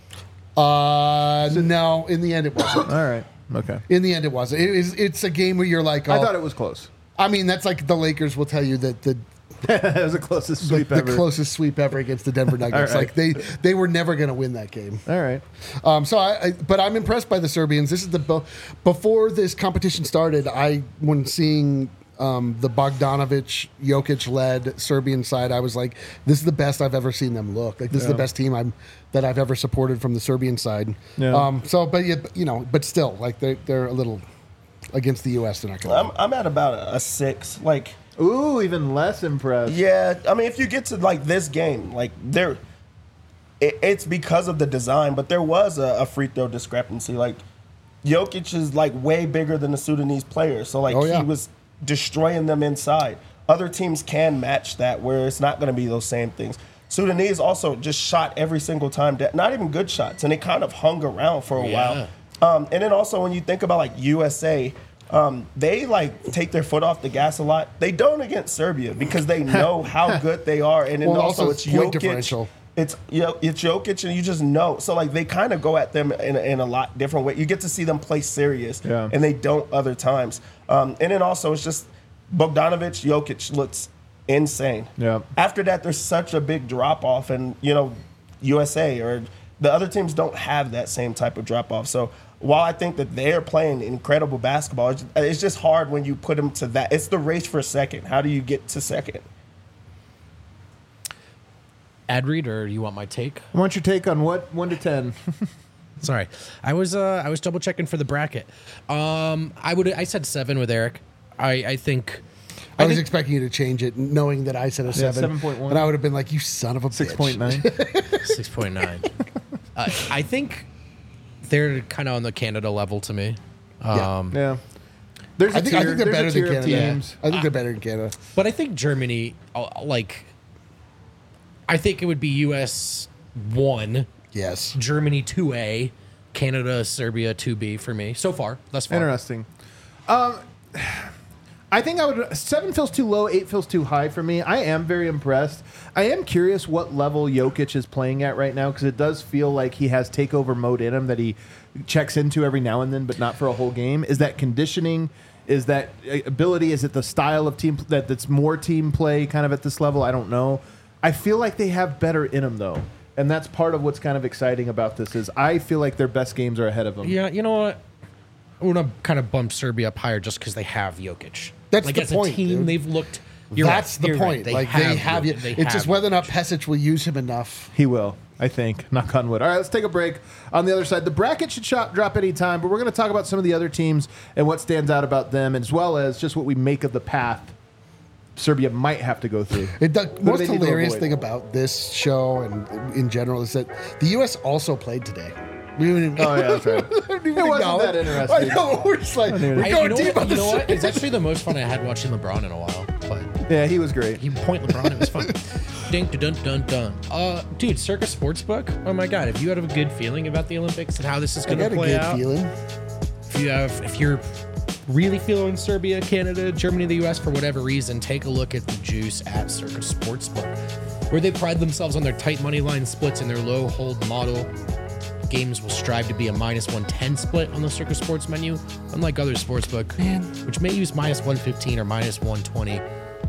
Uh, no, in the end it wasn't. All right. Okay. In the end it wasn't. It is, it's a game where you're like, oh, I thought it was close. I mean, that's like the Lakers will tell you that the It was the closest the, sweep the ever. closest sweep ever against the Denver Nuggets. All right. Like they they were never going to win that game. All right. Um, so I, I, but I'm impressed by the Serbians. This is the bo- before this competition started. I when seeing um, the Bogdanovic, Jokic-led Serbian side, I was like, this is the best I've ever seen them look. Like this is the best team I'm that I've ever supported from the Serbian side. Yeah. Um, so, but you, you know, but still, like they're they're a little against the U S. They're not going. I'm, I'm at about a, a six. Like, Ooh, even less impressed. yeah, I mean, if you get to like this game, like there, it, it's because of the design, but there was a, a free throw discrepancy. Like, Jokic is like way bigger than the Sudanese player, so like Oh, yeah. he was destroying them inside. Other teams can match that, where it's not going to be those same things. Sudanese also just shot every single time, that- not even good shots, and they kind of hung around for a Yeah. while. Um, and then also when you think about like U S A, um, they like take their foot off the gas a lot. They don't against Serbia because they know how good they are, and then Well, also, also it's it's point Jokic. differential. It's you know, it's Jokic, and you just know. So like they kind of go at them in, a- in a lot different way. You get to see them play serious, Yeah. and they don't other times. Um, and then also it's just Bogdanovic, Jokic looks insane. Yeah. After that, there's such a big drop off, and you know, U S A or the other teams don't have that same type of drop off. So while I think that they're playing incredible basketball, it's, it's just hard when you put them to that. It's the race for second. How do you get to second? Ad read, or you want my take? I want your take on what one to ten. Sorry, I was uh, I was double checking for the bracket. Um, I would I said seven with Eric. I I think I was think- expecting you to change it, knowing that I said a seven. seven point one. And I would have been like, you son of a Six bitch. point nine. six point nine. uh, I think they're kind of on the Canada level to me. Yeah. Um, Yeah. There's a I think, I tier, think they're there's a better tier than of Canada. teams. I think they're better than Canada. But I think Germany, uh, like, I think it would be U S one, Yes. Germany two A, Canada, Serbia two B for me so far. Thus far. Interesting. Um, I think I would. Seven feels too low. Eight feels too high for me. I am very impressed. I am curious what level Jokic is playing at right now because it does feel like he has takeover mode in him that he checks into every now and then, but not for a whole game. Is that conditioning? Is that uh, ability? Is it the style of team that that's more team play kind of at this level? I don't know. I feel like they have better in them though, and that's part of what's kind of exciting about this. Is I feel like their best games are ahead of them. Yeah, you know what? I want to kind of bump Serbia up higher just because they have Jokic. That's like the as point, a team, dude. they've looked. You're That's right, the you're point. right. Like they have you. Jokic. They It's have just whether or not Jokic. Pesic will use him enough. He will, I think. Knock on wood. All right, let's take a break. On the other side, the bracket should shop, drop any time, but we're going to talk about some of the other teams and what stands out about them, as well as just what we make of the path Serbia might have to go through. It, the do most they need to hilarious avoid? thing about this show and in general is that the U S also played today. We didn't even, Oh, yeah, that's right. I didn't even It wasn't acknowledge- that interesting. I know. We're just like, we're I, going you know, deep what, on you this. know what? It's actually the most fun I had watching LeBron in a while. But Yeah, he was great. he point LeBron, it was fun. Ding, dun, dun, dun. Uh, dude, Circa Sportsbook. Oh my God! If you have a good feeling about the Olympics and how this is I going to got a play good out, feeling. if you have, if you're really feeling Serbia, Canada, Germany, the U S for whatever reason, take a look at the juice at Circa Sportsbook, where they pride themselves on their tight money line splits and their low hold model. Games will strive to be a minus one ten split on the Circa Sports menu, unlike other sportsbook, Man. which may use minus one fifteen or minus one twenty.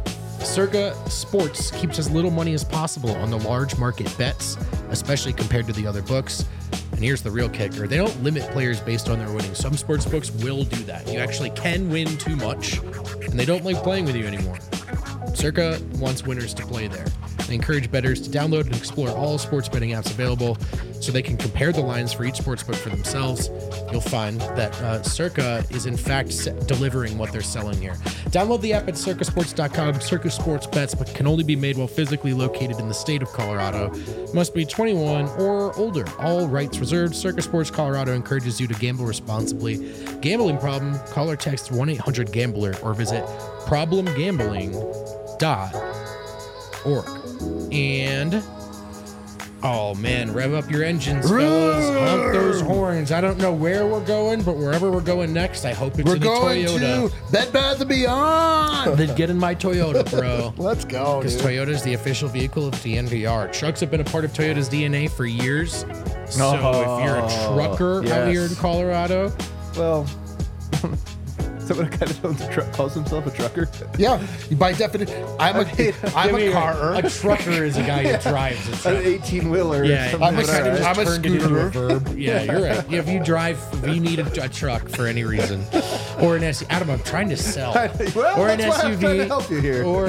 Circa Sports keeps as little money as possible on the large market bets, especially compared to the other books. And here's the real kicker. They don't limit players based on their winnings. Some sports books will do that. You actually can win too much, and they don't like playing with you anymore. Circa wants winners to play there. They encourage bettors to download and explore all sports betting apps available so they can compare the lines for each sportsbook for themselves. You'll find that uh, Circa is in fact se- delivering what they're selling here. Download the app at circa sports dot com. Circa Sports bets but can only be made while physically located in the state of Colorado. Must be twenty-one or older. All rights reserved. Circa Sports Colorado encourages you to gamble responsibly. Gambling problem? Call or text one eight hundred gambler or visit problem gambling dot org. And oh man, rev up your engines, fellas. Hump those horns. I don't know where we're going, but wherever we're going next, I hope it's We're in a going Toyota. to Bed Bath and Beyond. Then get in my Toyota, bro. Let's go, Because dude. Toyota is the official vehicle of D N V R. Trucks have been a part of Toyota's D N A for years. So if you're a trucker out yes. here in Colorado, Well, that what a guy that owns a truck calls himself a trucker? Yeah, by definition, I'm a I'm a carer. A trucker is a guy who drives a An truck. eighteen wheeler. Yeah, I'm a you kind of scooter- just I'm a turned it into a scooter. verb. Yeah, you're right. Yeah, if you drive, if you need a, a truck for any reason, or an S U V. Adam, I'm trying to sell. Well, or an that's why I'm S U V. trying to help you here. Or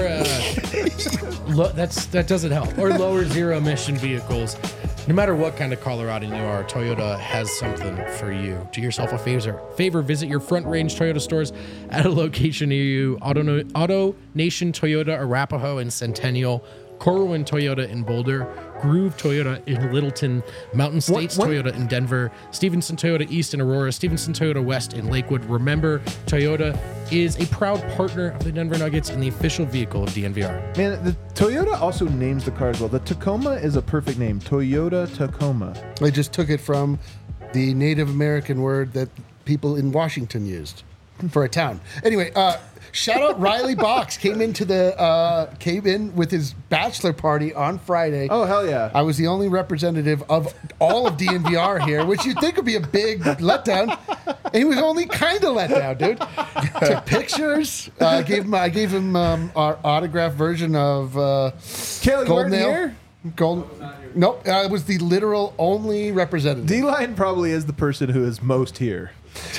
uh, lo- that's that doesn't help. Or lower zero emission vehicles. No matter what kind of Coloradan you are, Toyota has something for you. Do yourself a favor. Favor, visit your Front Range Toyota stores at a location near you. Auto, Auto Nation Toyota, Arapahoe and Centennial. Corwin Toyota in Boulder, Groove Toyota in Littleton, Mountain States what- Toyota in Denver, Stevenson Toyota East in Aurora, Stevenson Toyota West in Lakewood. Remember, Toyota is a proud partner of the Denver Nuggets and the official vehicle of D N V R. Man, the Toyota also names the cars well. The Tacoma is a perfect name. Toyota Tacoma. I just took it from the Native American word that people in Washington used for a town. Anyway, uh, shout out Riley Box came into the uh, came in with his bachelor party on Friday. Oh, hell yeah. I was the only representative of all of D N V R here, which you'd think would be a big letdown. And he was only kind of let down, dude. Took pictures. Uh, I gave him I gave him um, our autographed version of uh, Kale, you Gold weren't Nail. here? Gold. Nope, I was the literal only representative. D-Line probably is the person who is most here.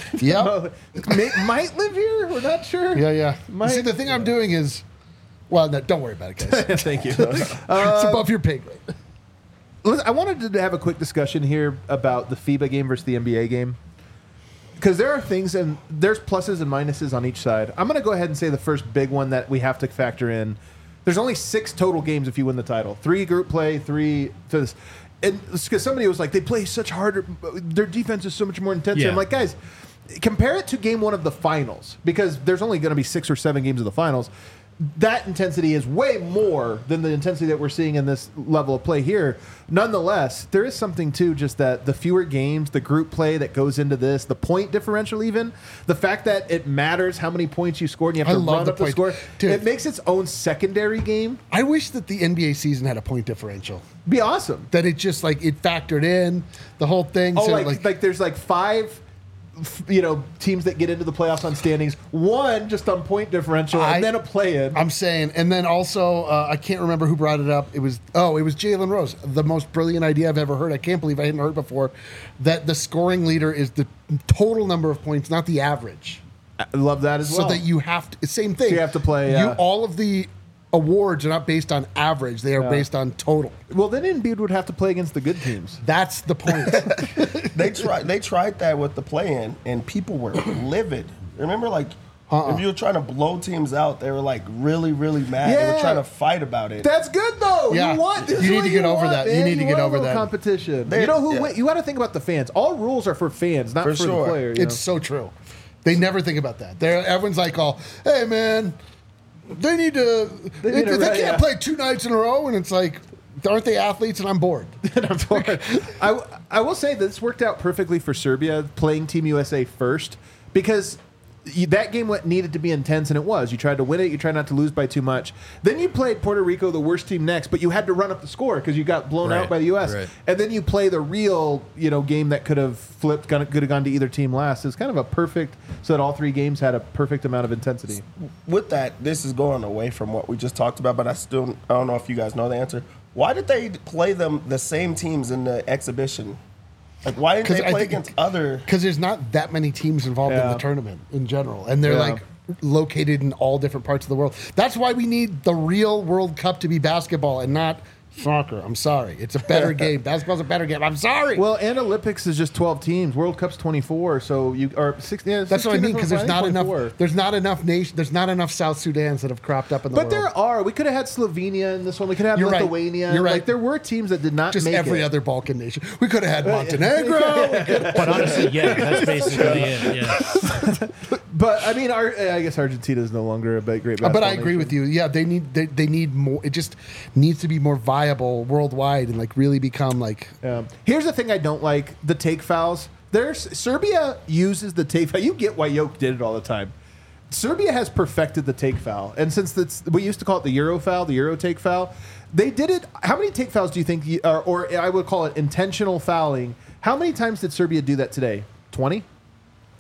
Yep. May, might live here. We're not sure. Yeah, yeah. My- See, the thing I'm doing is, well, no, don't worry about it, guys. Thank you. it's above your pay grade. Listen, I wanted to have a quick discussion here about the FIBA game versus the N B A game. Because there are things, and there's pluses and minuses on each side. I'm going to go ahead and say the first big one that we have to factor in. There's only six total games if you win the title. Three group play, three to this. And because somebody was like, they play such harder, their defense is so much more intense. Yeah. I'm like, guys, compare it to game one of the finals, because there's only going to be six or seven games of the finals. That intensity is way more than the intensity that we're seeing in this level of play here. Nonetheless, there is something too, just that the fewer games, the group play that goes into this, the point differential, even the fact that it matters how many points you scored and you have I to love run the up the point. score. Dude. It makes its own secondary game. I wish that the N B A season had a point differential. Be awesome. That it just like it factored in the whole thing. Oh, so like, like, like there's like five, f- you know, teams that get into the playoffs on standings. One just on point differential, I- and then a play-in. I'm saying, and then also uh, I can't remember who brought it up. It was oh, it was Jalen Rose, the most brilliant idea I've ever heard. I can't believe I hadn't heard before. That the scoring leader is the total number of points, not the average. I love that as So well. that you have to same thing. So you have to play, You yeah. all of the awards are not based on average; they are Yeah. based on total. well, then Embiid would have to play against the good teams. That's the point. They tried. They tried that with the play-in, and people were livid. Remember, like Uh-uh. if you were trying to blow teams out, they were like really, really mad. They Yeah. were trying to fight about it. That's good though. Yeah. You want this You is need what to get over want, that. You man. need to get want a over little that. competition. They- you know who? yeah. win- You got to think about the fans. All rules are for fans, not For for, sure. the player. you It's so true. They never think about that. They're everyone's like, "Oh, hey man, they need to. They, need they to- can't yeah. play two nights in a row." And it's like, aren't they athletes? And I'm bored. know? I'm bored. I, I will say this worked out perfectly for Serbia playing Team U S A first, because you, that game went, needed to be intense, and it was. You tried to win it. You tried not to lose by too much. Then you played Puerto Rico, the worst team, next, but you had to run up the score because you got blown Right, out by the U S right. And then you play the real, you know, game that could have flipped, gonna- could have gone to either team last. It's kind of a perfect, so that all three games had a perfect amount of intensity. With that, this is going away from what we just talked about, but I still I don't know if you guys know the answer. Why did they play them the same teams in the exhibition? Like, why didn't 'Cause they I play think- against other? Because there's not that many teams involved in Yeah. the tournament in general, and they're Yeah. like located in all different parts of the world. That's why we need the real World Cup to be basketball and not soccer. I'm sorry, it's a better game. Basketball's a better game. I'm sorry. Well, and Olympics is just twelve teams. World Cup's twenty-four, so you or six. Yeah, That's what I sixteen mean. is Because there's think not enough. twenty-four. There's not enough nation. There's not enough South Sudans that have cropped up in the But world. there are. We could have had Slovenia in this one. We could have You're right. Lithuania. You're right. Like there were teams that did not just make every it. other Balkan nation. We could have had Montenegro. We could- But honestly, yeah, that's basically it. Yeah. But I mean, our, I guess Argentina is no longer a big, great. but basketball I agree nation. with you. Yeah, they need they, they need more. It just needs to be more viable worldwide and like really become like. Um, here's the thing I don't like: the take fouls. There's Serbia uses the take foul. You get why Jokic did it all the time. Serbia has perfected the take foul, and since that's we used to call it the Euro foul, the Euro take foul, they did it. How many take fouls do you think, you, or, or I would call it intentional fouling? How many times did Serbia do that today? twenty?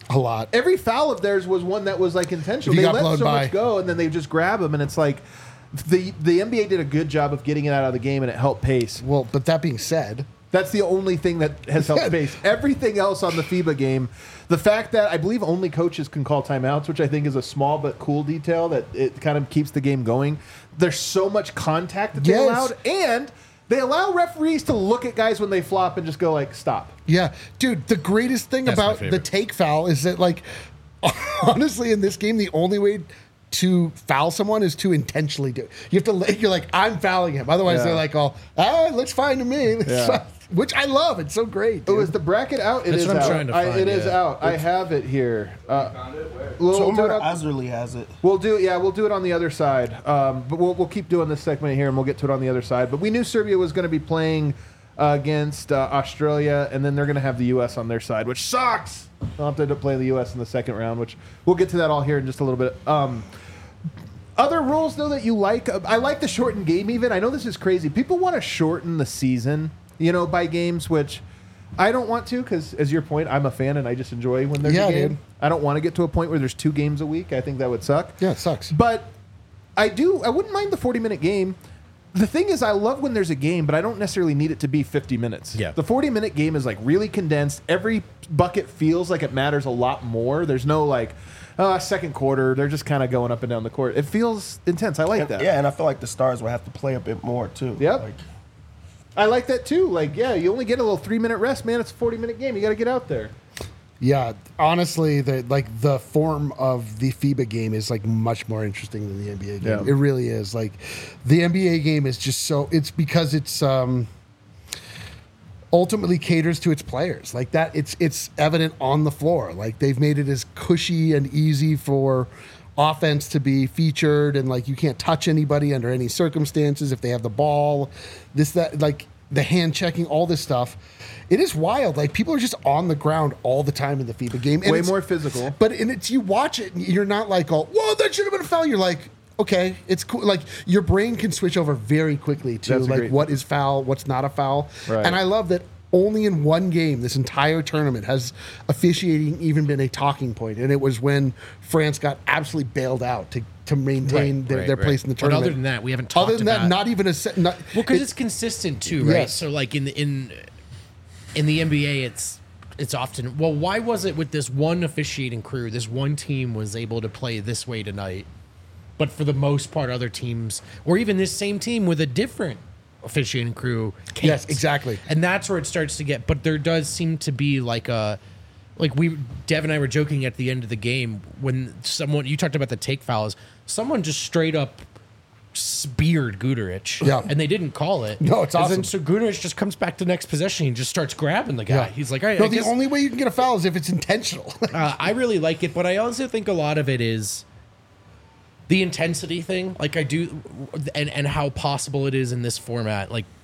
A lot. Every foul of theirs was one that was like intentional. If you They got let blown so by. much go, and then they just grab them, and it's like the the N B A did a good job of getting it out of the game, and it helped pace. Well, but that being said, That's the only thing that has helped pace. Everything else on the FIBA game, the fact that I believe only coaches can call timeouts, which I think is a small but cool detail that it kind of keeps the game going. There's so much contact that they Yes. allowed, and they allow referees to look at guys when they flop and just go like, stop. yeah, dude, the greatest thing That's my about the favorite. take foul is that, like, honestly, in this game, the only way to foul someone is to intentionally do it. You have to, let- you're like, I'm fouling him. Otherwise, Yeah. they're like, oh, ah, looks fine to me. Let's Yeah. fi- Which I love. It's so great. Oh, dude. is the bracket out? It That's is what I'm out. trying to I- find, it is yeah. out. I have it here. Uh, we'll, So we'll do it Umar on- Azerly has it. We'll do yeah, we'll do it on the other side. Um, but we'll, we'll keep doing this segment here, and we'll get to it on the other side. But we knew Serbia was going to be playing uh, against uh, Australia, and then they're going to have the U S on their side, which sucks. They'll have to end up playing the U S in the second round, which we'll get to that all here in just a little bit. Um, other rules though that you like, uh, I like the shortened game. Even I know this is crazy. People want to shorten the season, you know, by games, which I don't want to because, as your point, I'm a fan and I just enjoy when there's Yeah, a game. dude. I don't want to get to a point where there's two games a week. I think that would suck. Yeah, it sucks. But I do. I wouldn't mind the forty minute game. The thing is, I love when there's a game, but I don't necessarily need it to be fifty minutes. Yeah. The forty minute game is like really condensed. Every bucket feels like it matters a lot more. There's no like, uh, second quarter. They're just kind of going up and down the court. It feels intense. I like And- that. Yeah, and I feel like the Stars will have to play a bit more too. Yep. Like, I like that too. Like, yeah, you only get a little three minute rest, man. It's a forty minute game. You got to get out there. Yeah, honestly, the like the form of the FIBA game is like much more interesting than the N B A game. Yeah. It really is. Like the N B A game is just so it's because it's um ultimately caters to its players. Like that it's it's evident on the floor. Like they've made it as cushy and easy for offense to be featured, and like you can't touch anybody under any circumstances if they have the ball. This that like the hand checking, all this stuff. It is wild. Like people are just on the ground all the time in the FIBA game. And Way it's- more physical. But and it's you watch it, and you're not like, oh, whoa, that should have been a foul. You're like, okay, it's cool. Like your brain can switch over very quickly to That's a like great- what is foul, what's not a foul. Right. And I love that only in one game this entire tournament has officiating even been a talking point, and it was when France got absolutely bailed out to to maintain Right, their, right, their right. place in the But tournament. other than that, we haven't talked Other than that, about- not even a set. Not, Well, because it- it's consistent too, right? Yes. So like in the in in the N B A, it's it's often well. Why was it with this one officiating crew? This one team was able to play this way tonight, but for the most part, other teams, or even this same team with a different officiating crew, can't. Yes, exactly. And that's where it starts to get. But there does seem to be like a. Like we, Dev and I were joking at the end of the game when someone you talked about the take fouls. Someone just straight up speared Guduric, Yeah. and they didn't call it. No, it's And awesome. Then, so Guduric just comes back to the next possession and just starts grabbing the guy. Yeah. He's like, all right, no, I the guess- only way you can get a foul is if it's intentional. uh, I really like it, but I also think a lot of it is the intensity thing. Like I do, and and how possible it is in this format. Like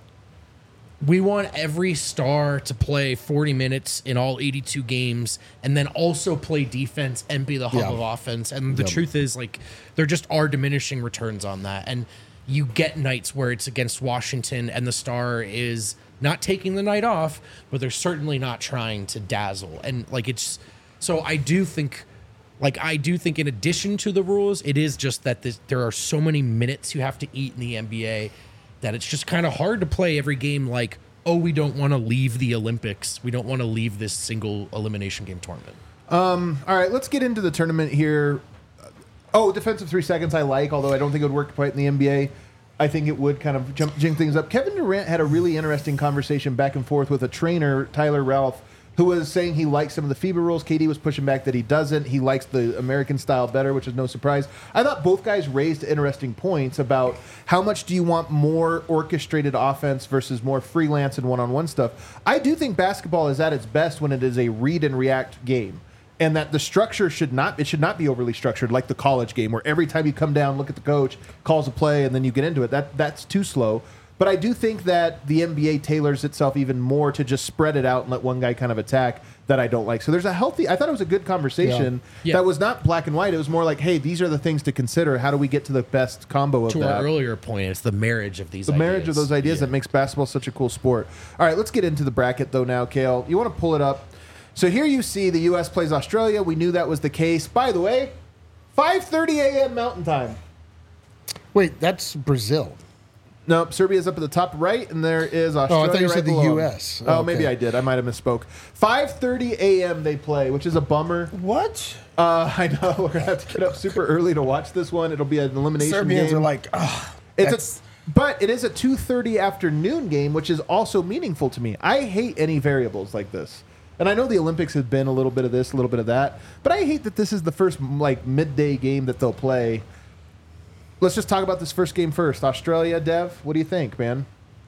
we want every star to play forty minutes in all eighty-two games, and then also play defense and be the hub Yeah. of offense. And the Yep. truth is, like, there just are diminishing returns on that. And you get nights where it's against Washington, and the star is not taking the night off, but they're certainly not trying to dazzle. And like it's so I do think. Like, I do think in addition to the rules, it is just that this, there are so many minutes you have to eat in the N B A that it's just kind of hard to play every game like, oh, we don't want to leave the Olympics. We don't want to leave this single elimination game tournament. All right, let's get into the tournament here. Oh, defensive three seconds I like, although I don't think it would work quite in the N B A. I think it would kind of jump, jing things up. Kevin Durant had a really interesting conversation back and forth with a trainer, Tyler Ralph, who was saying he likes some of the FIBA rules. K D was pushing back that he doesn't. He likes the American style better, which is no surprise. I thought both guys raised interesting points about how much do you want more orchestrated offense versus more freelance and one-on-one stuff. I do think basketball is at its best when it is a read and react game. And that the structure should not it should not be overly structured like the college game where every time you come down, look at the coach, calls a play, and then you get into it. That that's too slow. But I do think that the N B A tailors itself even more to just spread it out and let one guy kind of attack that I don't like. So there's a healthy, I thought it was a good conversation Yeah. that was not black and white. It was more like, hey, these are the things to consider. How do we get to the best combo of To that? our earlier point, it's the marriage of these the ideas. marriage of those ideas Yeah. that makes basketball such a cool sport. All right, let's get into the bracket though now, Kale. You want to pull it up? So here you see the U S plays Australia. We knew that was the case. By the way, five thirty a.m. Mountain Time. Wait, that's Brazil. Nope, Serbia's up at the top right, and there is Australia. Oh, I thought you right said the below. U S. Oh, Okay. maybe I did. I might have misspoke. five thirty a.m. they play, which is a bummer. What? Uh, I know we're gonna have to get up super early to watch this one. It'll be an elimination Serbians game. are like, oh, It's a, but it is a two thirty afternoon game, which is also meaningful to me. I hate any variables like this. And I know the Olympics have been a little bit of this, a little bit of that, but I hate that this is the first like midday game that they'll play. Let's just talk about this first game first. Australia, Dev, what do you think, man?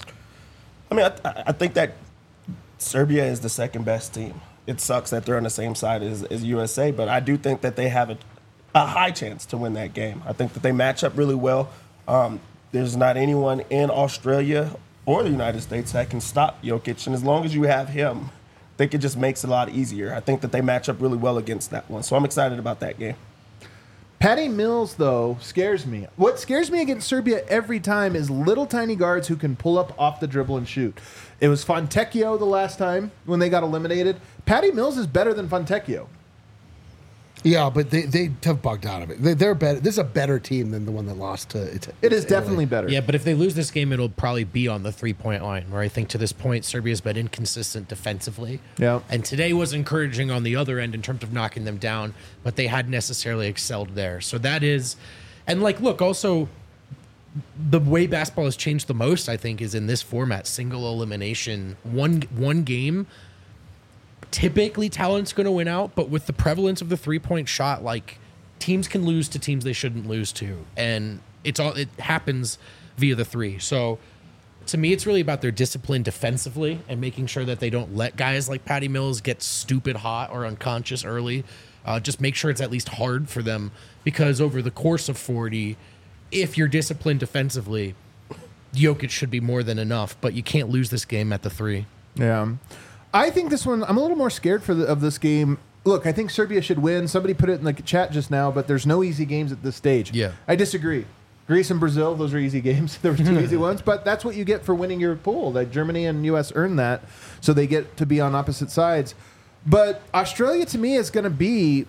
I mean, I, I think that Serbia is the second best team. It sucks that they're on the same side as, as U S A, but I do think that they have a, a high chance to win that game. I think that they match up really well. Um, there's not anyone in Australia or the United States that can stop Jokic, and as long as you have him, I think it just makes it a lot easier. I think that they match up really well against that one, so I'm excited about that game. Patty Mills, though, scares me. What scares me against Serbia every time is little tiny guards who can pull up off the dribble and shoot. It was Fontecchio the last time when they got eliminated. Patty Mills is better than Fontecchio. Yeah, but they, they have bugged out of it. They, they're better. This is a better team than the one that lost to. to It is Italy. definitely better. Yeah, but if they lose this game, it'll probably be on the three-point line, where I think to this point, Serbia's been inconsistent defensively. Yeah. And today was encouraging on the other end in terms of knocking them down, but they hadn't necessarily excelled there. So that is, and like, look, also, the way basketball has changed the most, I think, is in this format, single elimination, one one game. Typically, talent's going to win out, but with the prevalence of the three-point shot, like, teams can lose to teams they shouldn't lose to, and it's all it happens via the three. So, to me, it's really about their discipline defensively and making sure that they don't let guys like Patty Mills get stupid hot or unconscious early. Uh, just make sure it's at least hard for them, because over the course of forty, if you're disciplined defensively, Jokic should be more than enough, but you can't lose this game at the three. Yeah. I think this one, I'm a little more scared for the, of this game. Look, I think Serbia should win. Somebody put it in the chat just now, but there's no easy games at this stage. Yeah. I disagree. Greece and Brazil, those are easy games. There were two easy ones, but that's what you get for winning your pool. Like Germany and U S earned that, so they get to be on opposite sides. But Australia, to me, is going to be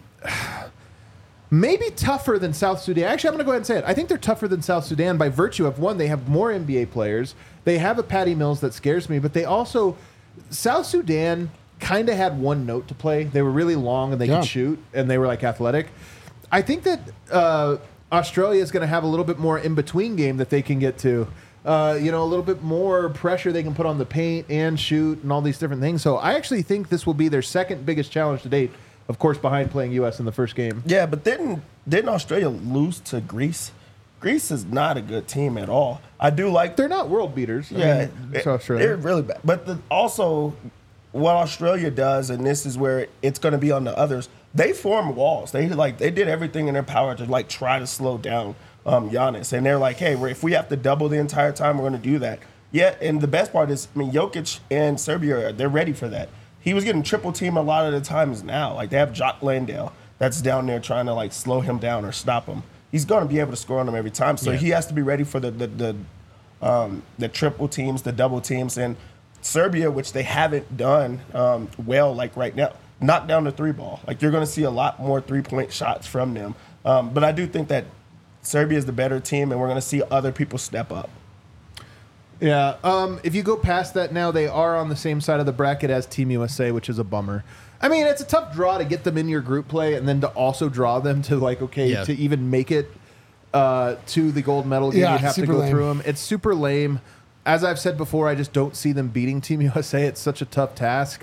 maybe tougher than South Sudan. Actually, I'm going to go ahead and say it. I think they're tougher than South Sudan by virtue of, one, they have more N B A players. They have a Patty Mills that scares me, but they also... South Sudan kind of had one note to play. They were really long and they Yeah. could shoot, and they were like athletic. I think that uh, Australia is going to have a little bit more in between game that they can get to. Uh, you know, a little bit more pressure they can put on the paint and shoot and all these different things. So I actually think this will be their second biggest challenge to date, of course, behind playing U S in the first game. Yeah, but didn't didn't Australia lose to Greece? Greece is not a good team at all. I do like They're not world beaters. I Yeah, mean, it's it- Australia. they're really bad. But the, also, what Australia does, and this is where it's going to be on the others, they form walls. They like they did everything in their power to like try to slow down um, Giannis, and they're like, hey, we're, if we have to double the entire time, we're going to do that. Yeah, and the best part is, I mean, Jokic and Serbia, they're ready for that. He was getting triple team a lot of the times now. Like they have Jock Landale that's down there trying to like slow him down or stop him. He's going to be able to score on them every time. So Yeah. he has to be ready for the the the, um, the triple teams, the double teams, and Serbia, which they haven't done um, well, like right now, knock down the three ball. Like you're going to see a lot more three point shots from them. Um, but I do think that Serbia is the better team, and we're going to see other people step up. Yeah. Um, if you go past that now, they are on the same side of the bracket as Team U S A, which is a bummer. I mean, it's a tough draw to get them in your group play and then to also draw them to, like, okay, Yeah. to even make it uh, to the gold medal game, Yeah, you'd have to super go lame. through them. It's super lame. As I've said before, I just don't see them beating Team U S A. It's such a tough task.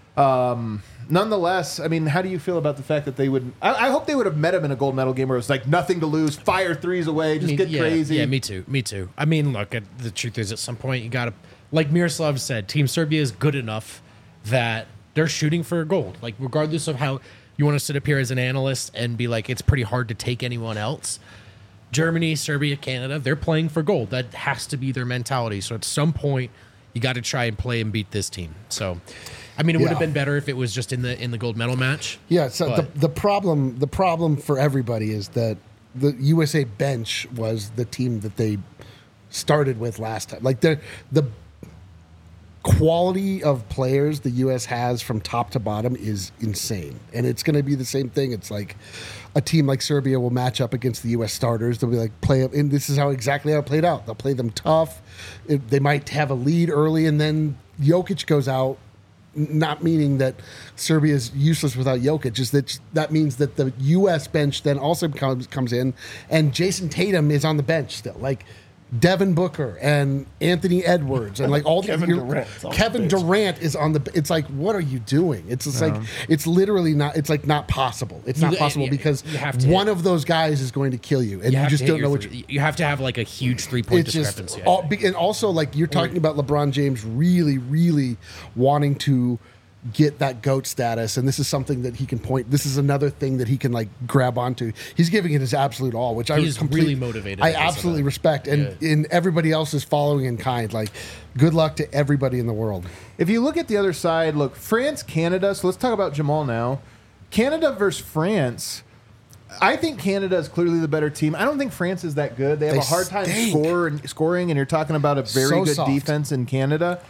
Um, nonetheless, I mean, how do you feel about the fact that they would? I, I hope they would have met him in a gold medal game where it was like nothing to lose, fire threes away, just Me- get yeah, crazy. Yeah, me too. Me too. I mean, look, at, the truth is, at some point, you got to, like Miroslav said, Team Serbia is good enough that they're shooting for gold. Like, regardless of how you want to sit up here as an analyst and be like, it's pretty hard to take anyone else. Germany, Serbia, Canada, they're playing for gold. That has to be their mentality. So at some point, you got to try and play and beat this team. So, I mean, it would Yeah. have been better if it was just in the in the gold medal match. Yeah, so the, But- the problem the problem for everybody is that the U S A bench was the team that they started with last time. Like the the quality of players the U S has from top to bottom is insane. And it's going to be the same thing. It's like a team like Serbia will match up against the U S starters. They'll be like, play up. And this is how exactly how it played out. They'll play them tough. It, they might have a lead early, and then Jokic goes out. Not meaning that Serbia is useless without Jokic, just that that means that the U S bench then also comes comes in, and Jason Tatum is on the bench still. Like Devin Booker and Anthony Edwards and like all the Kevin Durant's on the Kevin bench. Durant is on the. It's like, what are you doing? It's just like it's literally not. It's like not possible. It's not You- possible you- because you have to one hit- of those guys is going to kill you, and you, have just to hit don't your know what. three- You, you have to have like a huge three point it's just discrepancy. I all, think. and also like you're talking about LeBron James really, really wanting to get that GOAT status, and this is something that he can point. This is another thing that he can like grab onto. He's giving it his absolute all, which I He was is complete- really motivated I because of absolutely that. respect, and Yeah. in everybody else is following in kind. Like, good luck to everybody in the world. If you look at the other side, look, France, Canada. So let's talk about Jamal now. Canada versus France. I think Canada is clearly the better team. I don't think France is that good. They have They a hard time stink. score and scoring, and you're talking about a very So good soft. defense in Canada.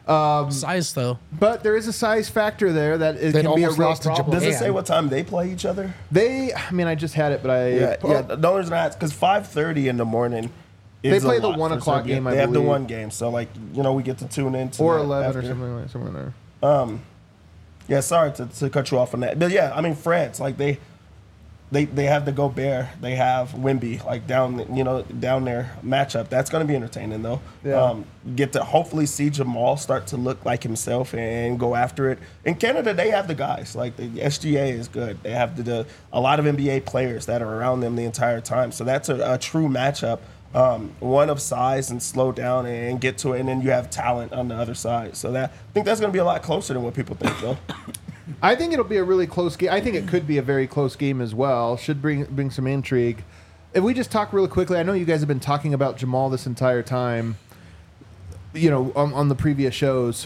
Size though. But there is a size factor there that it They'd can be a almost real lost to problem. Does it Man. say what time they play each other? They, I mean, I just had it, but I Yeah, oh, yeah. The only reason I ask because five thirty in the morning. They Is play a the lot one for o'clock Serbia. game, I They have the believe. one game, so like you know we get to tune in to or that eleven after. or something like somewhere there. Yeah, sorry to, to cut you off on that, but yeah, I mean France, like they, they they have the Gobert, they have Wemby, like down you know down their matchup. That's going to be entertaining though. Yeah. Um, get to hopefully see Jamal start to look like himself and go after it. In Canada, they have the guys, like the S G A is good. They have the, the a lot of N B A players that are around them the entire time, so that's a, a true matchup. Um, one of size and slow down and get to it, and then you have talent on the other side. So that I think that's going to be a lot closer than what people think, though. I think it'll be a really close game. I think it could be a very close game as well. Should bring bring some intrigue. If we just talk really quickly, I know you guys have been talking about Jamal this entire time. You know, on, on the previous shows.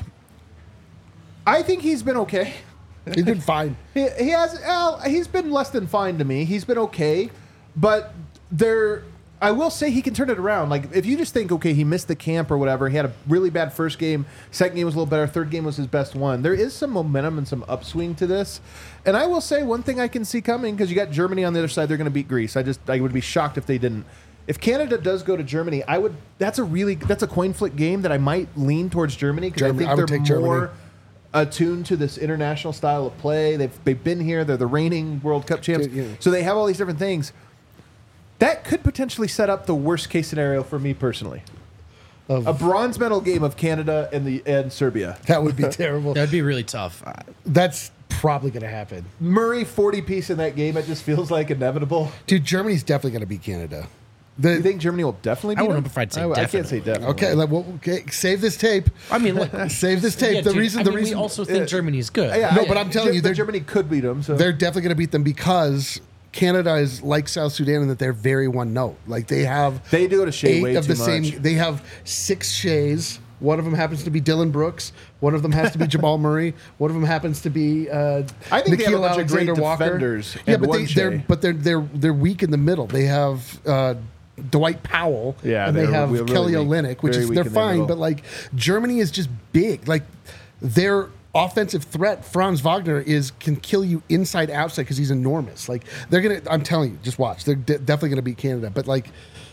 I think he's been okay. He did fine. He, he has. Well, he's been less than fine to me. He's been okay, but there. I will say he can turn it around. Like if you just think, okay, he missed the camp or whatever. He had a really bad first game. Second game was a little better. Third game was his best one. There is some momentum and some upswing to this. And I will say one thing I can see coming because you got Germany on the other side. They're going to beat Greece. I just I would be shocked if they didn't. If Canada does go to Germany, I would. That's a really that's a coin flip game that I might lean towards Germany because I Germany- think I would they're take Germany. more attuned to this international style of play. They've they've been here. They're the reigning World Cup champs. Yeah. So they have all these different things. That could potentially set up the worst case scenario for me personally. Of- A bronze medal game of Canada and the and Serbia. That would be terrible. That'd be really tough. Uh, That's probably going to happen. Murray forty piece in that game. It just feels like inevitable. Dude, Germany's definitely going to beat Canada. The, You think Germany will definitely? I beat wouldn't them? know if I'd say I, I can't definitely. say definitely. okay, like, well, okay, save this tape. I mean, look, Save this tape. yeah, the dude, reason, I the mean, reason, we also think uh, Germany's good. Yeah, No, I- but I'm telling Ge- you, but they're- Germany could beat them. So they're definitely going to beat them because Canada is like South Sudan in that they're very one note. Like they have They do it a shade eight way of too the same. much. They have six shays. One of them happens to be Dylan Brooks. One of them has to be Jamal Murray. One of them happens to be uh, I think they have a Nikhil bunch of great Alexander Walker. defenders Yeah, and but one they, they're Shea. but they're they're they're weak in the middle. They have. Uh, Dwight Powell, Yeah, and they they're have really Kelly weak. Olynyk, which Very is weak they're in the fine, middle. but like Germany is just big. Like their offensive threat, Franz Wagner, is can kill you inside outside because he's enormous. Like they're gonna, I'm telling you, just watch. They're de- definitely gonna beat Canada, but like,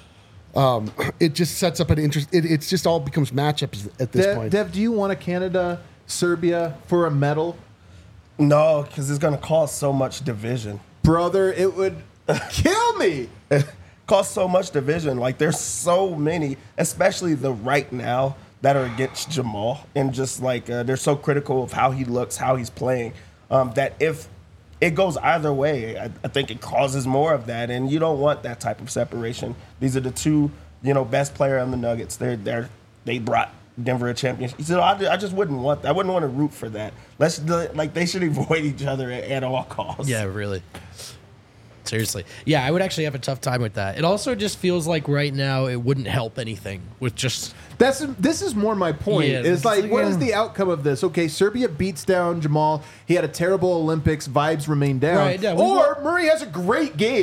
um, it just sets up an interest. It, it's just all becomes matchups at this Dev, point. Dev, do you want a Canada Serbia for a medal, No, because it's going to cause so much division. brother? It would kill me. Cause so much division. Like there's so many, especially the right now that are against Jamal, and just like uh, they're so critical of how he looks, how he's playing. Um, that if it goes either way, I, I think it causes more of that, and you don't want that type of separation. These are the two, you know, best player on the Nuggets. They're they're they brought Denver a championship. So I, I just wouldn't want. I wouldn't want to root for that. Let's do it- like they should avoid each other at, at all costs. Yeah, really. Seriously. Yeah, I would actually have a tough time with that. It also just feels like right now it wouldn't help anything with just That's this is more my point. Yeah, is it's like, like, what yeah. is the outcome of this? Okay, Serbia beats down Jamal. He had a terrible Olympics. Vibes remain down. Right, yeah, we or Murray has a great game.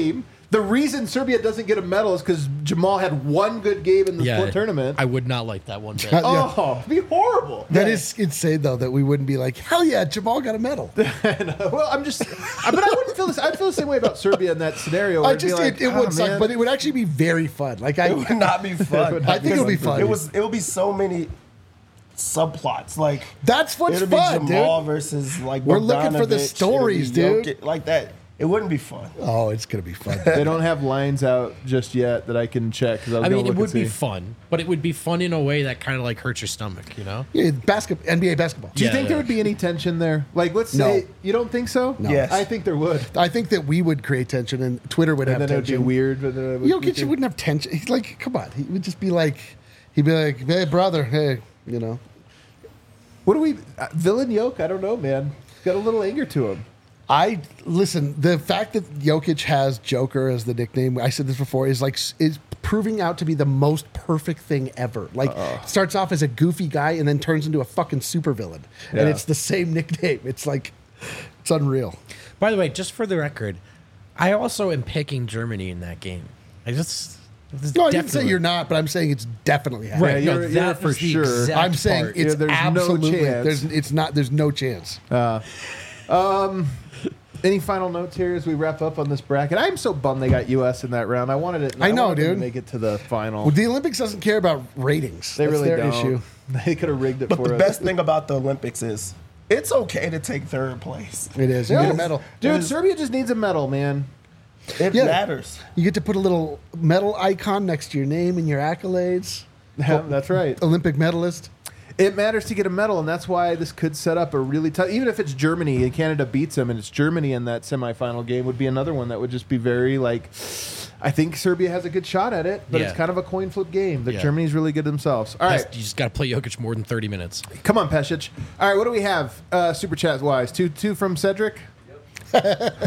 The reason Serbia doesn't get a medal is because Jamal had one good game in the Yeah, tournament. I would not like that one bit. Yeah. oh, it'd be horrible. That is insane, though, that we wouldn't be like, hell yeah, Jamal got a medal. Well, I'm just, I- but I wouldn't feel this. I'd feel the same way about Serbia in that scenario. where I it'd be just, like, it, it "Ah, would suck, man." but it would actually be very fun. Like, I, It would not be fun. I think it would be fun. It was. It would be so many subplots. Like That's what's it'd fun, be Jamal dude. versus like We're looking for the Bogdanovic, stories, it'd be dude. Jokic, like that. It wouldn't be fun. Oh, it's going to be fun. They don't have lines out just yet that I can check. 'cause I, was I gonna mean, it look would and be see. fun, but it would be fun in a way that kind of like hurts your stomach, you know? Yeah, basket, N B A basketball. Do you Yeah, think yeah. there would be any tension there? Like, let's No. say you don't think so. No. Yes. I think there would. I think that we would create tension and Twitter would And have then it would be tension. weird. But then it would Jokic be- wouldn't have tension. He's like, come on. He would just be like, he'd be like, hey, brother, hey, you know. What do we? Uh, Villain Yoke? I don't know, man. He's got a little anger to him. I listen. The fact that Jokic has Joker as the nickname, I said this before, is like is proving out to be the most perfect thing ever. Like starts off as a goofy guy and then turns into a fucking supervillain, and Yeah. it's the same nickname. It's like it's unreal. By the way, just for the record, I also am picking Germany in that game. I just. this is No, I didn't say definitely- you're not, but I'm saying it's definitely happening. Right, Yeah, no, you're- that you're for was the sure. exact I'm saying part. it's Yeah, there's no absolutely chance. there's it's not there's no chance. Any final notes here as we wrap up on this bracket? I'm so bummed they got U S in that round. I wanted it. I know, wanted them to dude. make it to the final. Well, the Olympics doesn't care about ratings. they That's really their don't. issue. They could have rigged it But for the us. best thing about the Olympics is it's okay to take third place. It is. You Yeah. get a medal. Dude, It is- Serbia just needs a medal, man. It Yeah. matters. You get to put a little medal icon next to your name and your accolades. Yeah, that's right. Olympic medalist. It matters to get a medal, and that's why this could set up a really tough. Even if it's Germany and Canada beats them, and it's Germany in that semifinal game, would be another one that would just be very like. I think Serbia has a good shot at it, but Yeah. it's kind of a coin flip game. That Yeah. Germany's really good themselves. All right, You just got to play Jokic more than thirty minutes. come on, Pesic. All right, what do we have? Uh, super chat wise, two two from Cedric. You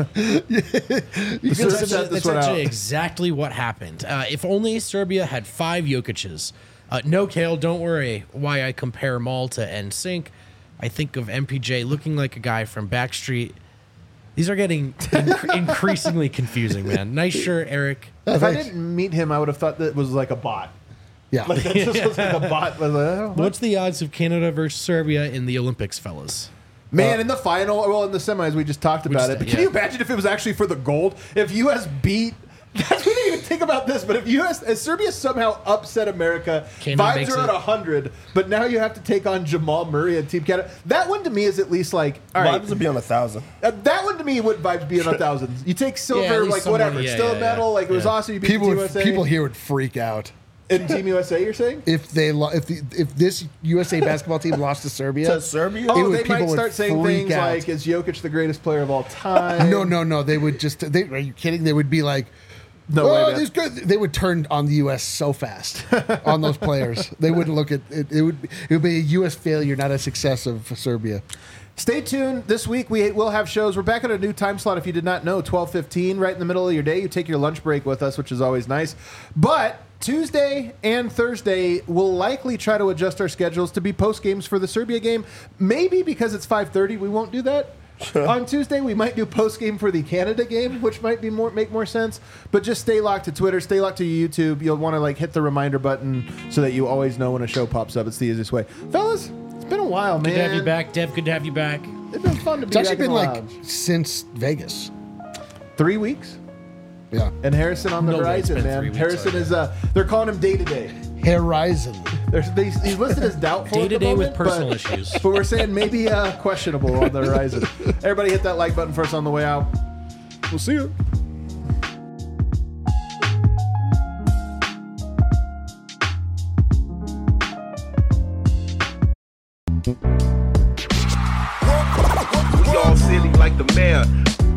Serbia can set That's, this that's one actually out. exactly what happened. Uh, if only Serbia had five Jokic's. Uh, no, Kale, don't worry why I compare Maul to N Sync. I think of M P J looking like a guy from Backstreet. These are getting inc- increasingly confusing, man. Nice shirt, Eric. If I thanks. didn't meet him, I would have thought that it was like a bot. Yeah. Like that just was like a bot. Was like, oh, what? What's the odds of Canada versus Serbia in the Olympics, fellas? Man, in the final, well, in the semis, we just talked about just- it. But can yeah. you imagine if it was actually for the gold? If U S beat, that's we didn't even think about this. But if U S, if Serbia somehow upset America, Canada vibes makes are it. at hundred. But now you have to take on Jamal Murray and Team Canada. That one to me is at least like, all right. Vibes would be on a thousand. Uh, that one to me would vibes be in a thousand. You take Yeah, silver, at least like someone- whatever, yeah, still yeah, a medal. yeah. Like it was Yeah. awesome. You beat people Team would, U S A. people here would freak out in Team U S A. You're saying? if they lo- if the, if this U S A basketball team lost to Serbia. To Serbia? Oh, would- they people might would start saying freak things out. like, "Is Jokic the greatest player of all time?" No, no, no. They would just. They, are you kidding? They would be like, No oh, way, man. this good. They would turn on the U S so fast on those players. They wouldn't look at it. It would. It would be a U S failure, not a success of Serbia. Stay tuned. This week we will have shows. We're back at a new time slot. If you did not know, twelve fifteen, right in the middle of your day. You take your lunch break with us, which is always nice. But Tuesday and Thursday, we'll likely try to adjust our schedules to be post games for the Serbia game. Maybe because it's five thirty, we won't do that. On Tuesday, we might do post game for the Canada game, which might be more make more sense. But just stay locked to Twitter, stay locked to YouTube. You'll want to like hit the reminder button so that you always know when a show pops up. It's the easiest way, fellas. It's been a while, man. Good to have you back, Dev. Good to have you back. It's been fun to be It's actually back in been the like lounge. since Vegas. Three weeks. Yeah. And Harrison on the No way it's horizon, been man. three weeks Harrison already. is uh they're calling him day to day. Horizon. There's he's he's listed as doubtful. Day at to the day with moment, personal but, issues. But we're saying maybe uh questionable on the horizon. Everybody hit that like button for us on the way out. We'll see you. We all silly like the mayor.